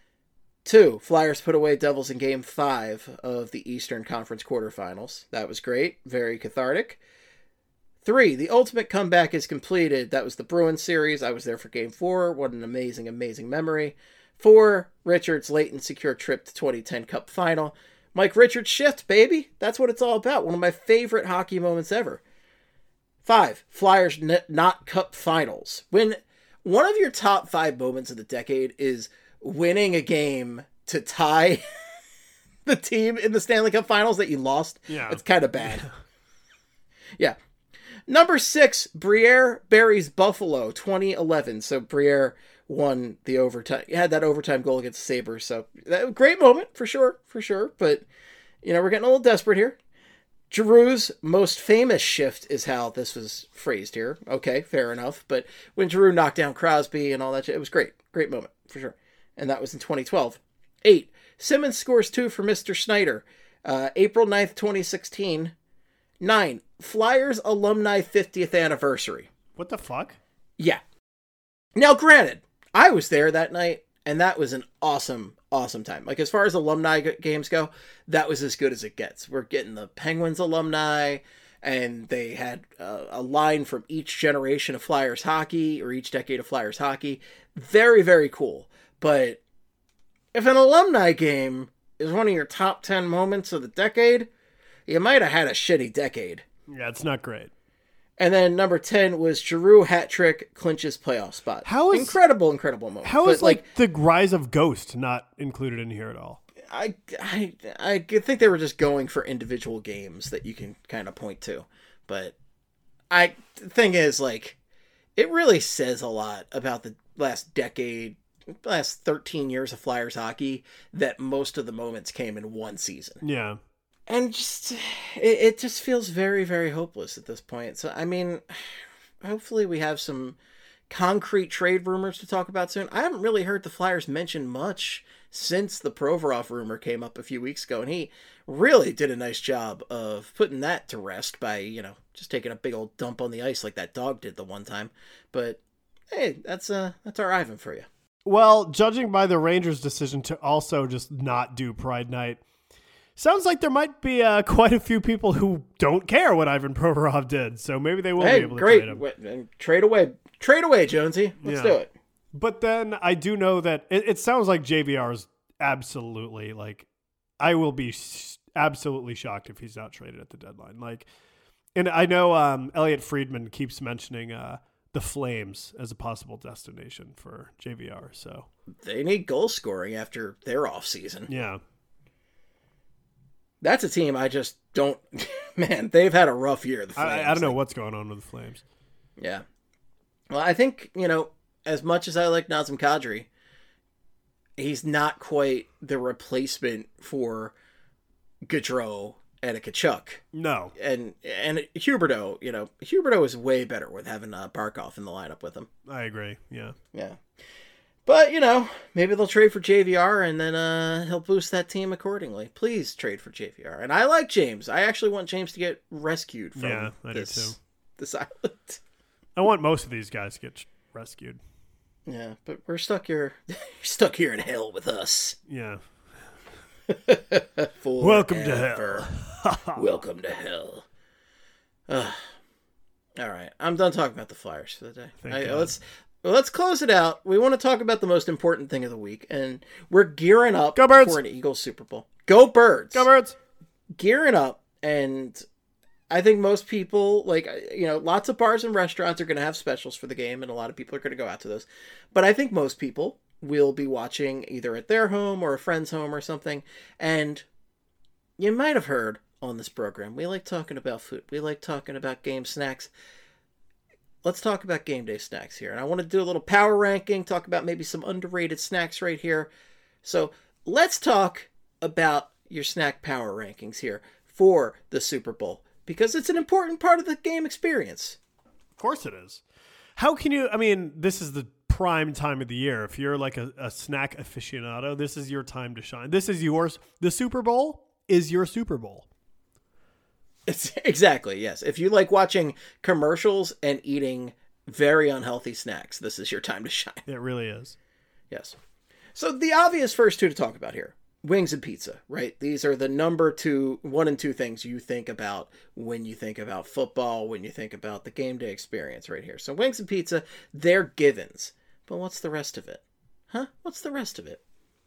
Two, Flyers put away Devils in game five of the Eastern Conference quarterfinals. That was great, very cathartic. Three, the ultimate comeback is completed. That was the Bruins series. I was there for game four. What an amazing, amazing memory. Four, Richards' late and secure trip to twenty ten Cup final. Mike Richards shift, baby. That's what it's all about. One of my favorite hockey moments ever. Five, Flyers n- not Cup finals. When one of your top five moments of the decade is winning a game to tie the team in the Stanley Cup finals that you lost, Yeah. it's kind of bad. Yeah. Number six, Briere buries Buffalo, twenty eleven. So Briere won the overtime, had that overtime goal against the Sabres. So that, great moment for sure, for sure. But, you know, we're getting a little desperate here. Giroux's most famous shift is how this was phrased here. Okay, fair enough. But when Giroux knocked down Crosby and all that shit, it was great. Great moment, for sure. And that was in twenty twelve. Eight, Simmons scores two for Mister Schneider. Uh, April ninth, twenty sixteen. Nine, Flyers alumni fiftieth anniversary. What the fuck? Yeah. Now, granted, I was there that night, and that was an awesome, awesome time. Like, as far as alumni g- games go, that was as good as it gets. We're getting the Penguins alumni, and they had uh, a line from each generation of Flyers hockey, or each decade of Flyers hockey. Very, very cool. But if an alumni game is one of your top ten moments of the decade, you might have had a shitty decade. Yeah, it's not great. And then number ten was Giroux hat trick clinches playoff spot. How is- incredible, incredible moment. How But, is like, the rise of Ghost not included in here at all? I, I, I think they were just going for individual games that you can kind of point to. But I, the thing is, like, it really says a lot about the last decade, last thirteen years of Flyers hockey, that most of the moments came in one season. Yeah. And just, it, it just feels very, very hopeless at this point. So, I mean, hopefully we have some concrete trade rumors to talk about soon. I haven't really heard the Flyers mention much since the Provorov rumor came up a few weeks ago, and he really did a nice job of putting that to rest by, you know, just taking a big old dump on the ice like that dog did the one time. But, hey, that's uh, that's our Ivan for you. Well, judging by the Rangers' decision to also just not do Pride Night, sounds like there might be uh, quite a few people who don't care what Ivan Provorov did, so maybe they will Hey, be able to great. trade him. Wait, and trade away. Trade away, Jonesy. Let's Yeah. do it. But then I do know that it, it sounds like J V R is absolutely, like, I will be s- absolutely shocked if he's not traded at the deadline. Like, and I know um, Elliot Friedman keeps mentioning uh, the Flames as a possible destination for J V R, so. They need goal scoring after their off season. Yeah. That's a team I just don't. Man, they've had a rough year. The Flames. I, I don't know Like, what's going on with the Flames. Yeah. Well, I think, you know, as much as I like Nazem Kadri, he's not quite the replacement for Gaudreau and a Kachuk. No. And and Huberdeau, you know, Huberdeau is way better with having uh, Barkov in the lineup with him. I agree, yeah. Yeah. But, you know, maybe they'll trade for J V R and then uh, he'll boost that team accordingly. Please trade for J V R. And I like James. I actually want James to get rescued from Yeah, I do this, too. this island. I want most of these guys to get rescued. Yeah, but we're stuck here. You're stuck here in hell with us. Yeah. Forever. Welcome to hell. Welcome to hell. Ugh. All right, I'm done talking about the Flyers for the day. Thank I, God. let's well, let's close it out. We want to talk about the most important thing of the week, and we're gearing up Go Birds! for an Eagles Super Bowl. Go Birds! Go Birds! Gearing up, and I think most people, like, you know, lots of bars and restaurants are going to have specials for the game, and a lot of people are going to go out to those. But I think most people will be watching either at their home or a friend's home or something. And you might have heard on this program, we like talking about food. We like talking about game snacks. Let's talk about game day snacks here. And I want to do a little power ranking, talk about maybe some underrated snacks right here. So let's talk about your snack power rankings here for the Super Bowl, because it's an important part of the game experience. Of course it is. How can you, I mean, this is the prime time of the year. If you're like a, a snack aficionado, this is your time to shine. This is yours. The Super Bowl is your Super Bowl. It's exactly, yes. If you like watching commercials and eating very unhealthy snacks, this is your time to shine. It really is. Yes. So the obvious first two to talk about here, wings and pizza, right? These are the number two, one and two things you think about when you think about football, when you think about the game day experience right here. So wings and pizza, they're givens. But what's the rest of it? Huh? What's the rest of it?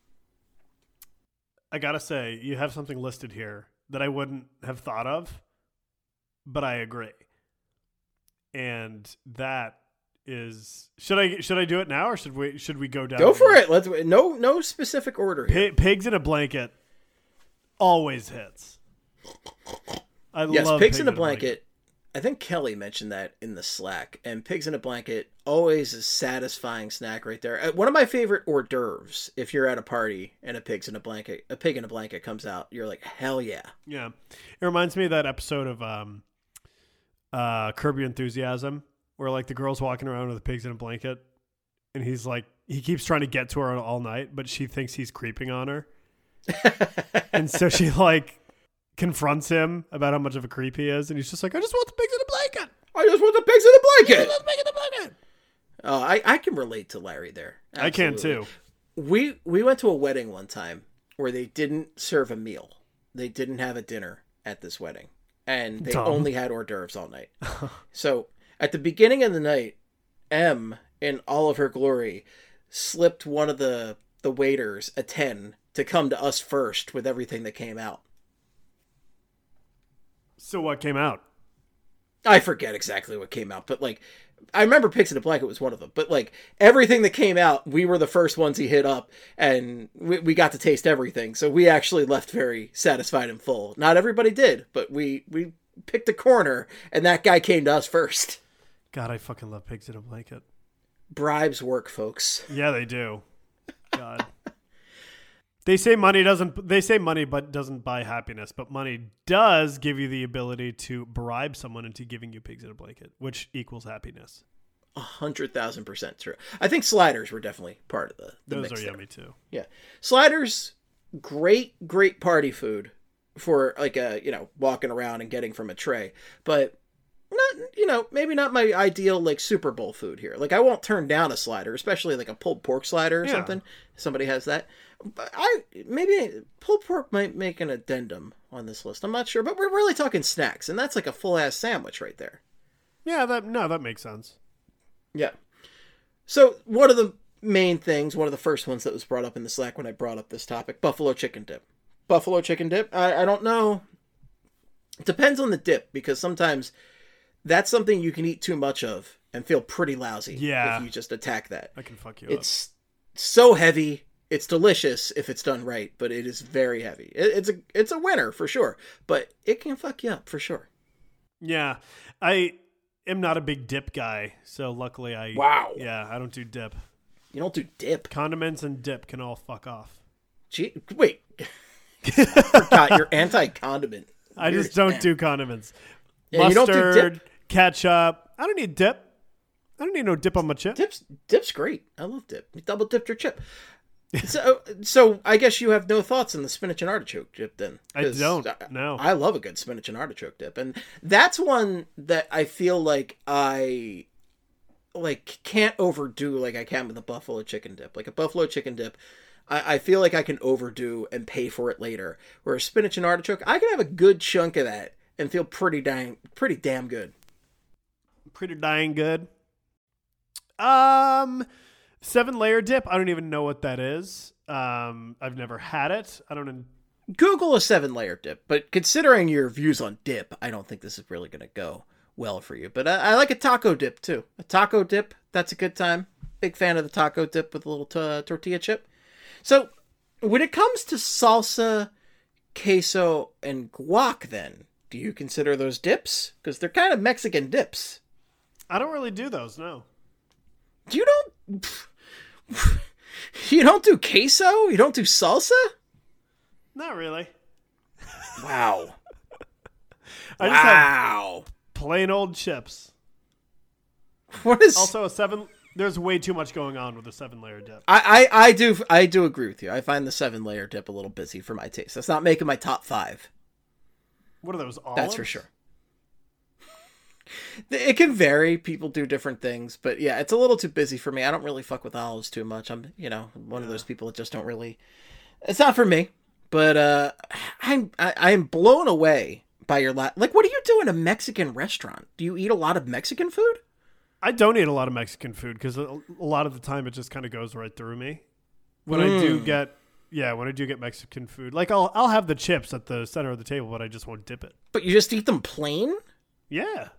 I gotta say, you have something listed here that I wouldn't have thought of, but I agree. And that is, should I should I do it now, or should we should we go down? Go for it. Let's no no specific order here. P- pigs in a blanket always hits. I yes, love pigs in a blanket. I think Kelly mentioned that in the Slack, and pigs in a blanket, always a satisfying snack right there. Uh, One of my favorite hors d'oeuvres, if you're at a party and a pig's in a blanket, a pig in a blanket comes out, you're like, hell yeah. Yeah. It reminds me of that episode of um, uh, Curb Your Enthusiasm, where like the girl's walking around with the pigs in a blanket, and he's like, he keeps trying to get to her all night, but she thinks he's creeping on her. And so she like confronts him about how much of a creep he is, and he's just like, I just want the pigs in a blanket. I just want the pigs in the blanket. I just want the pigs in a blanket. Oh, I, I can relate to Larry there. I can Absolutely. too. We we went to a wedding one time where they didn't serve a meal. They didn't have a dinner at this wedding, and they Dumb. only had hors d'oeuvres all night. So at the beginning of the night, M, in all of her glory, slipped one of the the waiters a ten to come to us first with everything that came out. So what came out? I forget exactly what came out, but like, I remember Pigs in a Blanket was one of them. But like, everything that came out, we were the first ones he hit up, and we, we got to taste everything. So we actually left very satisfied and full. Not everybody did, but we we picked a corner, and that guy came to us first. God, I fucking love pigs in a blanket. Bribes work, folks. Yeah, they do. God. They say money doesn't. They say money, but doesn't buy happiness. But money does give you the ability to bribe someone into giving you pigs in a blanket, which equals happiness. A hundred thousand percent true. I think sliders were definitely part of the. the Those mix are there. yummy too. Yeah, sliders, great, great party food for like a you know walking around and getting from a tray, but not you know maybe not my ideal like Super Bowl food here. Like I won't turn down a slider, especially like a pulled pork slider or Yeah. something. Somebody has that. But I maybe pulled pork might make an addendum on this list. I'm not sure, but we're really talking snacks, and that's like a full ass sandwich right there. Yeah, that no, that makes sense. Yeah. So one of the main things, one of the first ones that was brought up in the Slack when I brought up this topic, buffalo chicken dip. Buffalo chicken dip. I, I don't know. It depends on the dip, because sometimes that's something you can eat too much of and feel pretty lousy. Yeah. If you just attack that. I can fuck you It's so heavy. It's delicious if it's done right, but it is very heavy. It, it's a it's a winner for sure, but it can fuck you up for sure. up. Yeah, I am not a big dip guy, so luckily I. Wow. Yeah, I don't do dip. You don't do dip. Condiments and dip can all fuck off. Gee, wait. I forgot you're anti-condiment. I Weird just don't man. do condiments. Yeah, you don't do Mustard, dip? ketchup. I don't need dip. I don't need no dip on my chip. Dip's dip's great. I love dip. You double dipped your chip. So, so I guess you have no thoughts on the spinach and artichoke dip then? I 'Cause don't, I- no. I love a good spinach and artichoke dip, and that's one that I feel like I like can't overdo like I can with a buffalo chicken dip. Like a buffalo chicken dip, I, I feel like I can overdo and pay for it later. Whereas spinach and artichoke, I can have a good chunk of that and feel pretty dang, pretty damn good. Pretty dang good. Um, seven layer dip. I don't even know what that is. Um, I've never had it. I don't know. Google a seven layer dip, but considering your views on dip, I don't think this is really going to go well for you. But I, I like a taco dip too. A taco dip, that's a good time. Big fan of the taco dip with a little t- tortilla chip. So when it comes to salsa, queso, and guac, then, do you consider those dips? Because they're kind of Mexican dips. I don't really do those, no. You don't... You don't do queso? You don't do salsa? Not really. Wow. I just wow. have plain old chips. What is... Also, a seven... There's way too much going on with a seven-layer dip. I, I, I do I do agree with you. I find the seven-layer dip a little busy for my taste. That's not making my top five. What are those, olives? That's for sure. It can vary. People do different things. But yeah, it's a little too busy for me. I don't really fuck with olives too much. I'm, you know, one yeah. of those people that just don't really... It's not for me. But uh, I'm, I, I'm blown away by your... La- like, what do you do in a Mexican restaurant? Do you eat a lot of Mexican food? I don't eat a lot of Mexican food because a, a lot of the time it just kind of goes right through me. When mm. I do get, yeah, when I do get Mexican food, like I'll I'll have the chips at the center of the table, but I just won't dip it. But you just eat them plain? Yeah.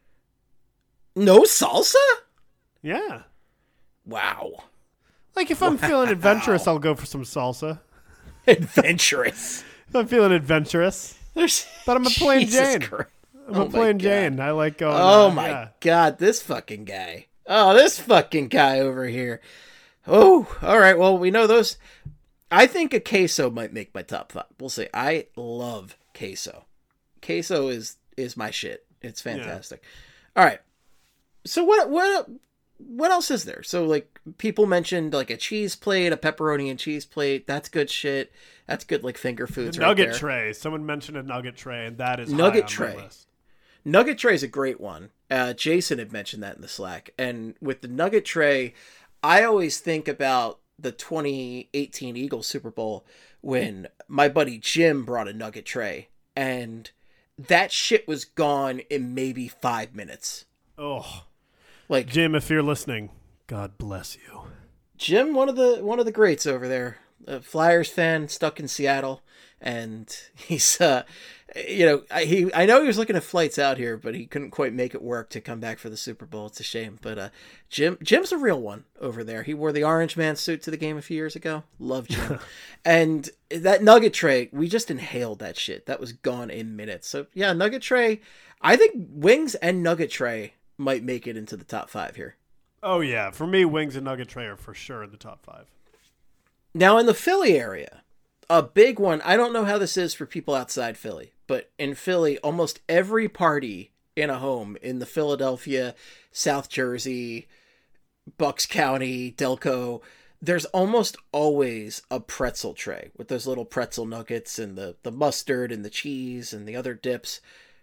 No salsa? Yeah. Wow. Like if I'm wow. feeling adventurous, I'll go for some salsa. Adventurous. If I'm feeling adventurous. There's, but I'm a plain Jesus Jane. Christ. I'm oh a plain Jane. I like going. Oh uh, my yeah. God, this fucking guy. Oh, this fucking guy over here. Oh, all right. Well, we know those. I think a queso might make my top five. We'll see. I love queso. Queso is is my shit. It's fantastic. Yeah. All right. So what what what else is there? So like people mentioned like a cheese plate, a pepperoni and cheese plate. That's good shit. That's good like finger foods. The right nugget there. tray. Someone mentioned a nugget tray, and that is nugget high tray. on my list. Nugget tray is a great one. Uh, Jason had mentioned that in the Slack. And with the nugget tray, I always think about the twenty eighteen Eagles Super Bowl when my buddy Jim brought a nugget tray. And that shit was gone in maybe five minutes. Oh. Like Jim, if you're listening, God bless you. Jim, one of the one of the greats over there. A Flyers fan stuck in Seattle. And he's, uh, you know, I, he, I know he was looking at flights out here, but he couldn't quite make it work to come back for the Super Bowl. It's a shame. But uh, Jim, Jim's a real one over there. He wore the Orange Man suit to the game a few years ago. Love Jim. And that nugget tray, we just inhaled that shit. That was gone in minutes. So yeah, nugget tray. I think wings and nugget tray might make it into the top five here. Oh yeah, for me, wings and nugget tray are for sure in the top five. Now in the Philly area. A big one, I don't know how this is for people outside Philly, but in Philly, almost every party in a home in the Philadelphia, South Jersey, Bucks County, Delco, there's almost always a pretzel tray with those little pretzel nuggets and the, the mustard and the cheese and the other dips.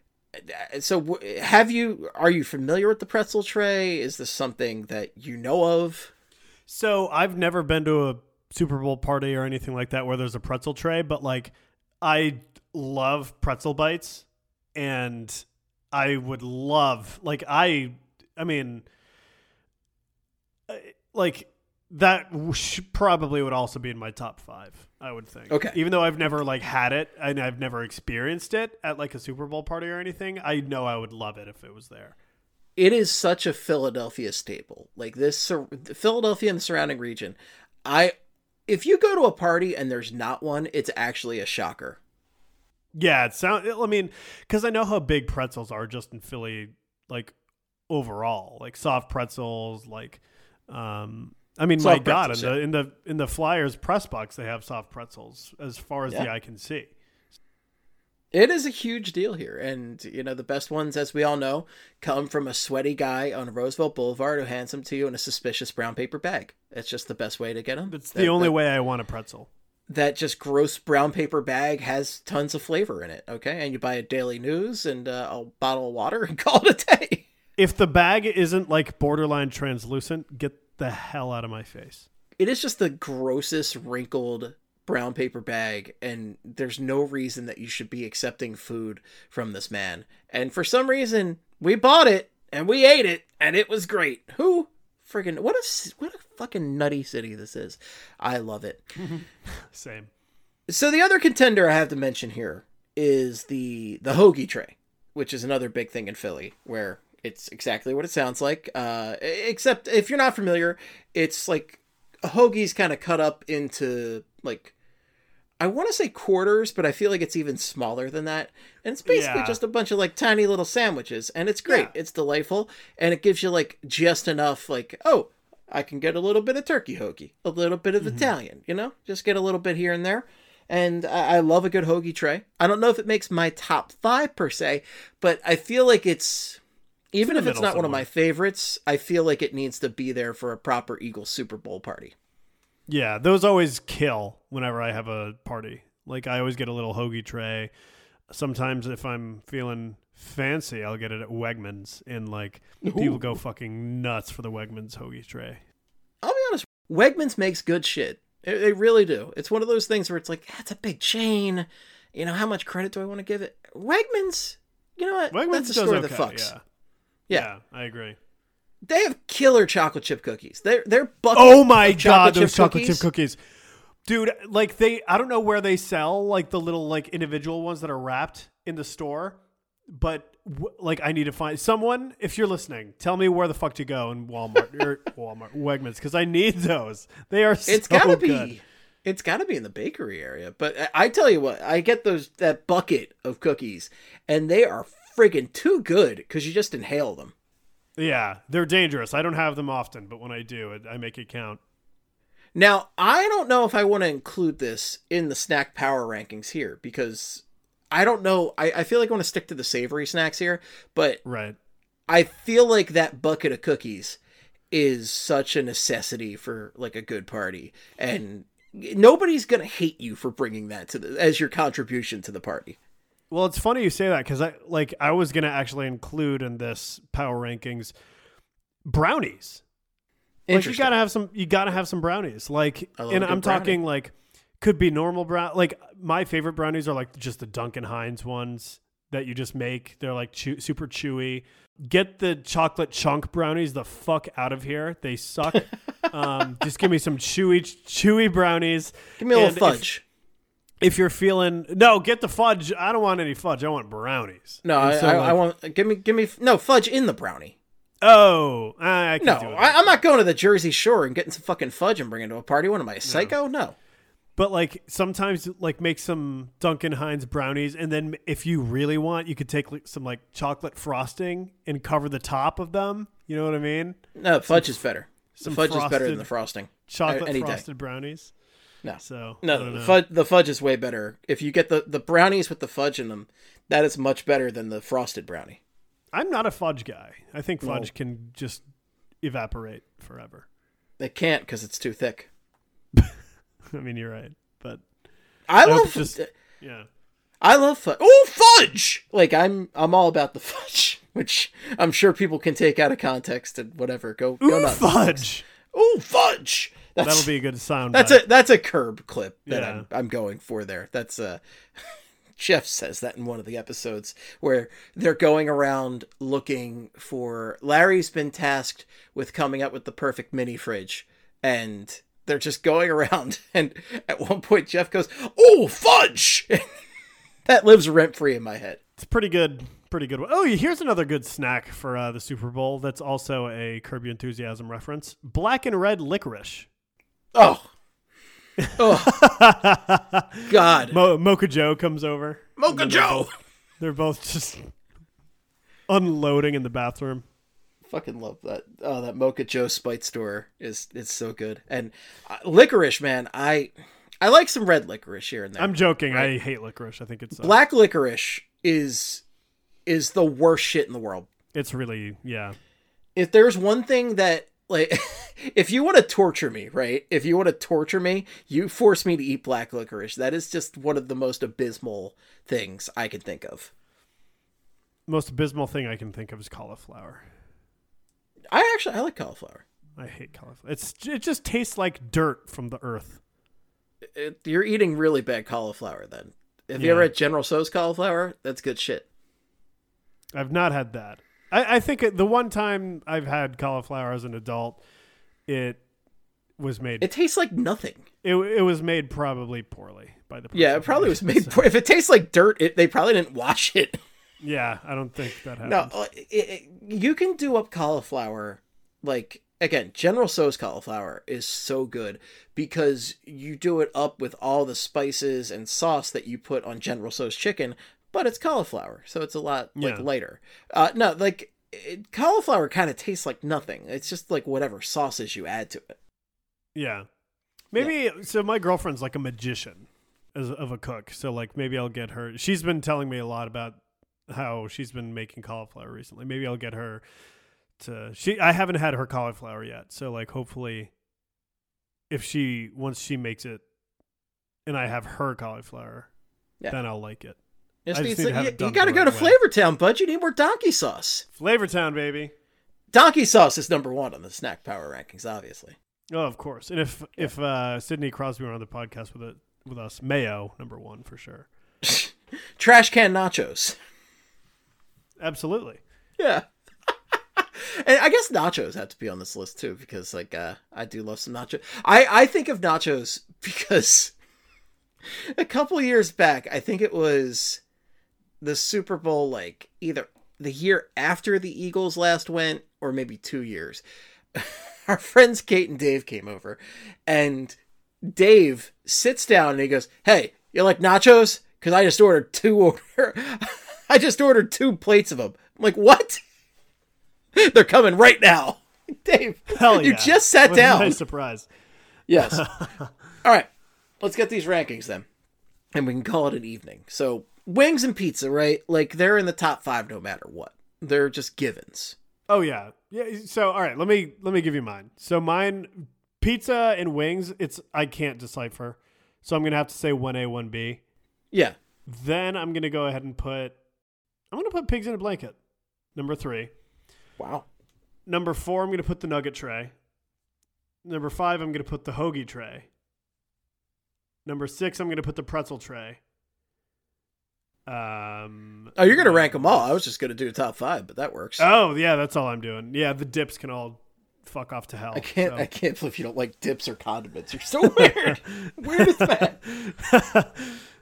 So have you, are you familiar with the pretzel tray? Is this something that you know of? So I've never been to a Super Bowl party or anything like that where there's a pretzel tray, but like I love pretzel bites and I would love like I I mean like that sh- probably would also be in my top five, I would think. Okay. Even though I've never like had it and I've never experienced it at like a Super Bowl party or anything, I know I would love it if it was there. It is such a Philadelphia staple. Like this Philadelphia and the surrounding region. I If you go to a party and there's not one, it's actually a shocker. Yeah, it sounds. I mean, because I know how big pretzels are just in Philly, like overall, like soft pretzels. Like, um, I mean, soft my God, pretzels, in the yeah. in the in the Flyers press box, they have soft pretzels as far as yeah. the eye can see. It is a huge deal here. And, you know, the best ones, as we all know, come from a sweaty guy on Roosevelt Boulevard who hands them to you in a suspicious brown paper bag. It's just the best way to get them. It's the that, only that, way I want a pretzel. That just gross brown paper bag has tons of flavor in it, okay? And you buy a Daily News and uh, a bottle of water and call it a day. If the bag isn't, like, borderline translucent, get the hell out of my face. it is just the grossest wrinkled brown paper bag, and there's no reason that you should be accepting food from this man. And for some reason, we bought it and we ate it, and it was great. Who friggin' what a what a fucking nutty city this is. I love it. Same. So the other contender I have to mention here is the the hoagie tray, which is another big thing in Philly, where it's exactly what it sounds like. Uh, except if you're not familiar, it's like a hoagie's kind of cut up into like, I want to say quarters, but I feel like it's even smaller than that. And it's basically Yeah. just a bunch of like tiny little sandwiches, and it's great. Yeah. It's delightful, and it gives you like just enough like, oh, I can get a little bit of turkey hoagie, a little bit of Mm-hmm. Italian, you know, just get a little bit here and there. And I, I love a good hoagie tray. I don't know if it makes my top five per se, but I feel like it's, even in if the it's middle not one of somewhere. my favorites, I feel like it needs to be there for a proper Eagles Super Bowl party. Yeah, those always kill whenever I have a party. Like, I always get a little hoagie tray. Sometimes if I'm feeling fancy, I'll get it at Wegmans, and like people go fucking nuts for the Wegmans hoagie tray. I'll be honest, Wegmans makes good shit. They, they really do. It's one of those things where it's like, that's a big chain. You know, how much credit do I want to give it? Wegmans, you know what? Wegmans That's a does store okay, that fucks. yeah. Yeah. yeah, I agree. They have killer chocolate chip cookies. They're, they're bucket Oh my of god, chocolate those chip chocolate cookies. chip cookies. Dude, like they I don't know where they sell like the little like individual ones that are wrapped in the store, but w- like I need to find someone, if you're listening, tell me where the fuck to go in Walmart or Walmart Wegmans, cuz I need those. They are so It's gotta good. be. It's gotta be in the bakery area. But I, I tell you what, I get those that bucket of cookies, and they are friggin' too good because you just inhale them. Yeah, they're dangerous. I don't have them often, but when I do, it, I make it count. Now, I don't know if I want to include this in the snack power rankings here, because I don't know. I, I feel like I want to stick to the savory snacks here, but Right. I feel like that bucket of cookies is such a necessity for like a good party, and nobody's gonna hate you for bringing that to the as your contribution to the party. Well, it's funny you say that, because I like I was gonna actually include in this power rankings brownies. Like you Interesting. gotta have some, you gotta have some brownies. Like, I love and a good I'm talking brownie. like could be normal brown. Like my favorite brownies are like just the Duncan Hines ones that you just make. They're like chew, super chewy. Get the chocolate chunk brownies the fuck out of here. They suck. um, just give me some chewy, chewy brownies. Give me a And little if- fudge. If you're feeling no, get the fudge. I don't want any fudge. I want brownies. No, And I, so, I, like, I want give me give me no fudge in the brownie. Oh, I, I can No, do it. I, I'm not going to the Jersey Shore and getting some fucking fudge and bringing it to a party. What am I, a psycho? No. But like sometimes, like make some Duncan Hines brownies, and then if you really want, you could take like, some like chocolate frosting and cover the top of them. You know what I mean? No, fudge is better. The some fudge is better frosted than the frosting. Chocolate Any day. frosted brownies. No. So I No, don't the know. fudge, the fudge is way better. If you get the, the brownies with the fudge in them, that is much better than the frosted brownie. I'm not a fudge guy. I think fudge No. can just evaporate forever. They can't because it's too thick. I mean, you're right, but I hope love it's just- yeah. I love fudge. Oh, fudge! Like I'm I'm all about the fudge, which I'm sure people can take out of context and whatever. Go go Ooh, nuts. fudge. Ooh, fudge! That's, That'll be a good sound. That's bite. a that's a curb clip that Yeah. I'm I'm going for there. That's uh Jeff says that in one of the episodes where they're going around looking for Larry's been tasked with coming up with the perfect mini fridge, and they're just going around, and at one point Jeff goes, "Oh, fudge!" That lives rent free in my head. It's pretty good. Pretty good one. Oh, here's another good snack for uh, the Super Bowl. That's also a Curb Your Enthusiasm reference. Black and red licorice. Oh, oh, God, Mo- Mocha Joe comes over. Mocha And then they're Joe. both- They're both just unloading in the bathroom. Fucking love that. Oh, that Mocha Joe Spite store is it's so good. And uh, licorice, man, I I like some red licorice here and there. I'm joking. Right. I hate licorice. I think it's uh, Black licorice is is the worst shit in the world. It's really yeah. If there's one thing that like if you want to torture me, right? If you want to torture me, you force me to eat black licorice. That is just one of the most abysmal things I can think of. Most abysmal thing I can think of is cauliflower. I actually I like cauliflower. I hate cauliflower. It's it just tastes like dirt from the earth. It, you're eating really bad cauliflower then. Have Yeah. you ever had General Tso's cauliflower? That's good shit. I've not had that. I, I think it, the one time I've had cauliflower as an adult, it was made. It tastes like nothing. It it was made probably poorly by the person. Yeah, it probably was made. So- If it tastes like dirt, it, they probably didn't wash it. Yeah, I don't think that happened. No, uh, it, it, you can do up cauliflower. Like, again, General Tso's cauliflower is so good because you do it up with all the spices and sauce that you put on General Tso's chicken, but it's cauliflower, so it's a lot like Yeah. lighter. Uh, no, like it, cauliflower kind of tastes like nothing. It's just like whatever sauces you add to it. Yeah. Maybe so my girlfriend's like a magician as of a cook. So like maybe I'll get her. She's been telling me a lot about how she's been making cauliflower recently. Maybe I'll get her to she I haven't had her cauliflower yet. So like hopefully if she once she makes it and I have her cauliflower, Yeah. then I'll like it. Just I needs just need to- to have you it done you got to the go to right way. Flavortown, bud. You need more donkey sauce. Flavortown, baby. Donkey sauce is number one on the snack power rankings, obviously. Oh, of course. And if if uh, Sidney Crosby were on the podcast with it with us, mayo number one for sure. Trash can nachos. Absolutely. Yeah. And I guess nachos have to be on this list too, because like uh, I do love some nachos. I, I think of nachos because a couple years back, I think it was the Super Bowl, like either the year after the Eagles last went or maybe two years. Our friends Kate and Dave came over, and Dave sits down and he goes, "Hey, you like nachos? Because I just ordered two order. I just ordered two plates of them." I'm like, "What?" They're coming right now. Dave, Hell you yeah. just sat What a down. nice surprise. Yes. All right. Let's get these rankings then. And we can call it an evening. So, wings and pizza, right? Like, they're in the top five no matter what. They're just givens. Oh yeah. Yeah, so all right, let me let me give you mine. So mine pizza and wings, it's I can't decipher. So I'm going to have to say one A, one B. Yeah. Then I'm going to go ahead and put I'm going to put pigs in a blanket. Number three. Wow. Number four, I'm going to put the nugget tray. Number five, I'm going to put the hoagie tray. Number six, I'm going to put the pretzel tray. Um, Oh, you're going to rank them all. I was just going to do the top five, but that works. Oh, yeah, that's all I'm doing. Yeah, the dips can all fuck off to hell. I can't so. I can't believe you don't like dips or condiments. You're so weird. Weird as that.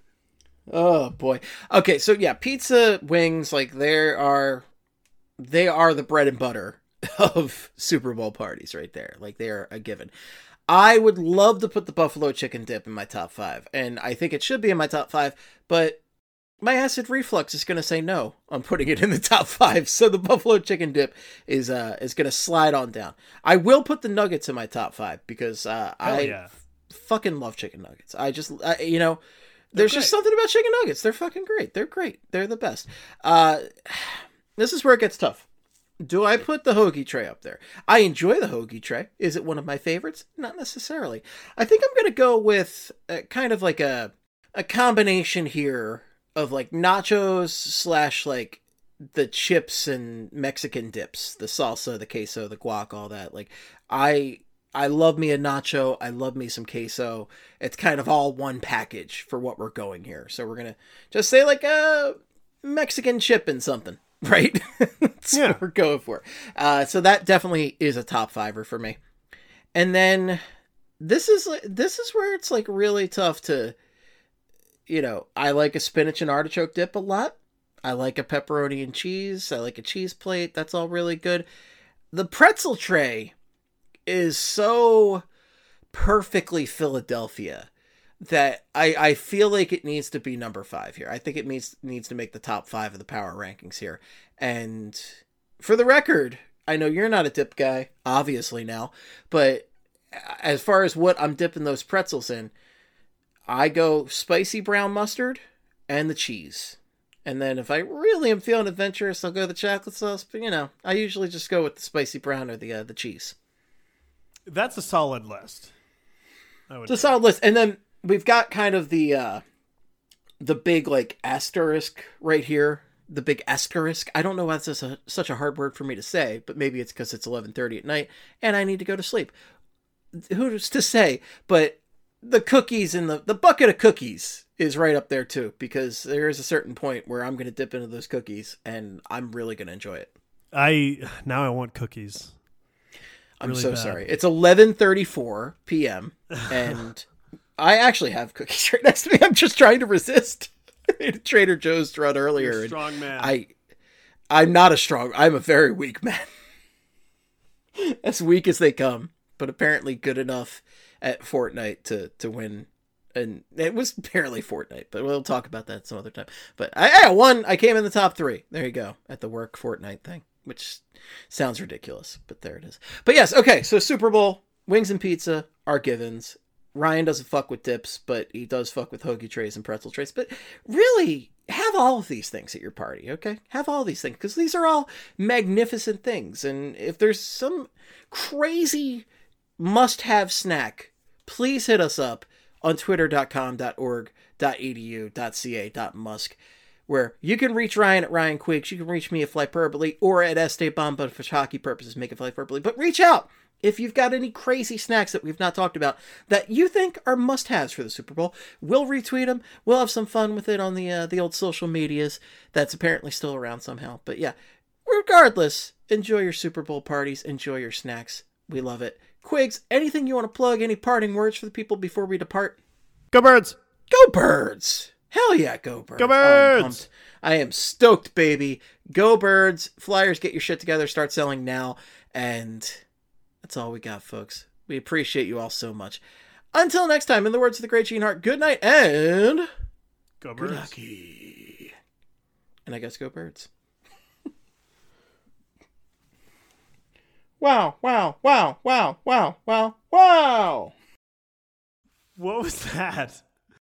Oh boy. Okay, so yeah, pizza, wings, like there are they are the bread and butter of Super Bowl parties right there. Like they are a given. I would love to put the buffalo chicken dip in my top five, and I think it should be in my top five, but my acid reflux is going to say no on putting it in the top five, so the buffalo chicken dip is uh is going to slide on down. I will put the nuggets in my top five because uh, I yeah. f- fucking love chicken nuggets. I just, I, you know, there's just great. something about chicken nuggets. They're fucking great. They're great. They're the best. Uh, this is where it gets tough. Do I put the hoagie tray up there? I enjoy the hoagie tray. Is it one of my favorites? Not necessarily. I think I'm going to go with uh, kind of like a a combination here of like nachos slash like the chips and Mexican dips, the salsa, the queso, the guac, all that. Like I I love me a nacho. I love me some queso. It's kind of all one package for what we're going here. So we're going to just say like a Mexican chip and something. Right? That's Yeah. what we're going for. Uh, so that definitely is a top fiver for me. And then this is this is where it's like really tough to, you know, I like a spinach and artichoke dip a lot. I like a pepperoni and cheese. I like a cheese plate. That's all really good. The pretzel tray is so perfectly Philadelphia that I, I feel like it needs to be number five here. I think it needs needs to make the top five of the power rankings here. And for the record, I know you're not a dip guy, obviously now, but as far as what I'm dipping those pretzels in, I go spicy brown mustard and the cheese. And then if I really am feeling adventurous, I'll go the chocolate sauce. But, you know, I usually just go with the spicy brown or the uh, the cheese. That's a solid list. I would It's a say. solid list. And then we've got kind of the uh, the big like asterisk right here the big asterisk. I don't know why that's such a, such a hard word for me to say, but maybe it's because it's eleven thirty at night and I need to go to sleep. Who's to say? But the cookies and the, the bucket of cookies is right up there too, because there is a certain point where I'm going to dip into those cookies and I'm really going to enjoy it. I now I want cookies. I'm Really so bad. sorry. It's eleven thirty-four p.m. and I actually have cookies right next to me. I'm just trying to resist. I made a Trader Joe's run earlier. You're a and strong man. I, I'm not a strong. I'm a very weak man. As weak as they come, but apparently good enough at Fortnite to to win. And it was barely Fortnite, but we'll talk about that some other time. But I, I won. I came in the top three. There you go at the work Fortnite thing, which sounds ridiculous, but there it is. But yes, okay. So Super Bowl, wings and pizza are givens. Ryan doesn't fuck with dips, but he does fuck with hoagie trays and pretzel trays. But really, have all of these things at your party, okay? Have all these things, because these are all magnificent things. And if there's some crazy must-have snack, please hit us up on twitter dot com dot org dot e d u dot c a dot musk, where you can reach Ryan at Ryan Quiggs, you can reach me at Flyperbole, or at Esteban, but for hockey purposes, make it Flyperbole. But reach out if you've got any crazy snacks that we've not talked about that you think are must-haves for the Super Bowl. We'll retweet them. We'll have some fun with it on the uh, the old social medias that's apparently still around somehow. But yeah, regardless, enjoy your Super Bowl parties. Enjoy your snacks. We love it. Quiggs, anything you want to plug? Any parting words for the people before we depart? Go Birds! Go Birds! Hell yeah, go Birds! Go Oh, I'm Birds! pumped. I am stoked, baby. Go Birds! Flyers, get your shit together. Start selling now. And that's all we got, folks. We appreciate you all so much. Until next time, in the words of the great Gene Hart, good night and Go good Birds! lucky. And I guess go Birds. Wow, wow, wow, wow, wow, wow, wow. What was that?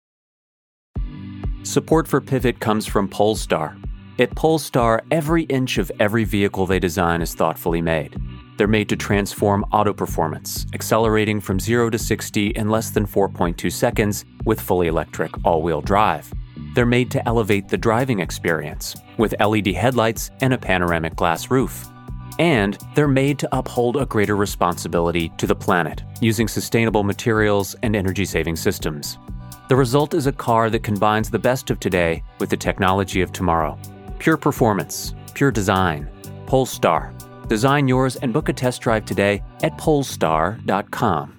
Support for Pivot comes from Polestar. At Polestar, every inch of every vehicle they design is thoughtfully made. They're made to transform auto performance, accelerating from zero to sixty in less than four point two seconds with fully electric all-wheel drive. They're made to elevate the driving experience with L E D headlights and a panoramic glass roof. And they're made to uphold a greater responsibility to the planet using sustainable materials and energy-saving systems. The result is a car that combines the best of today with the technology of tomorrow. Pure performance, pure design. Polestar. Design yours and book a test drive today at polestar dot com.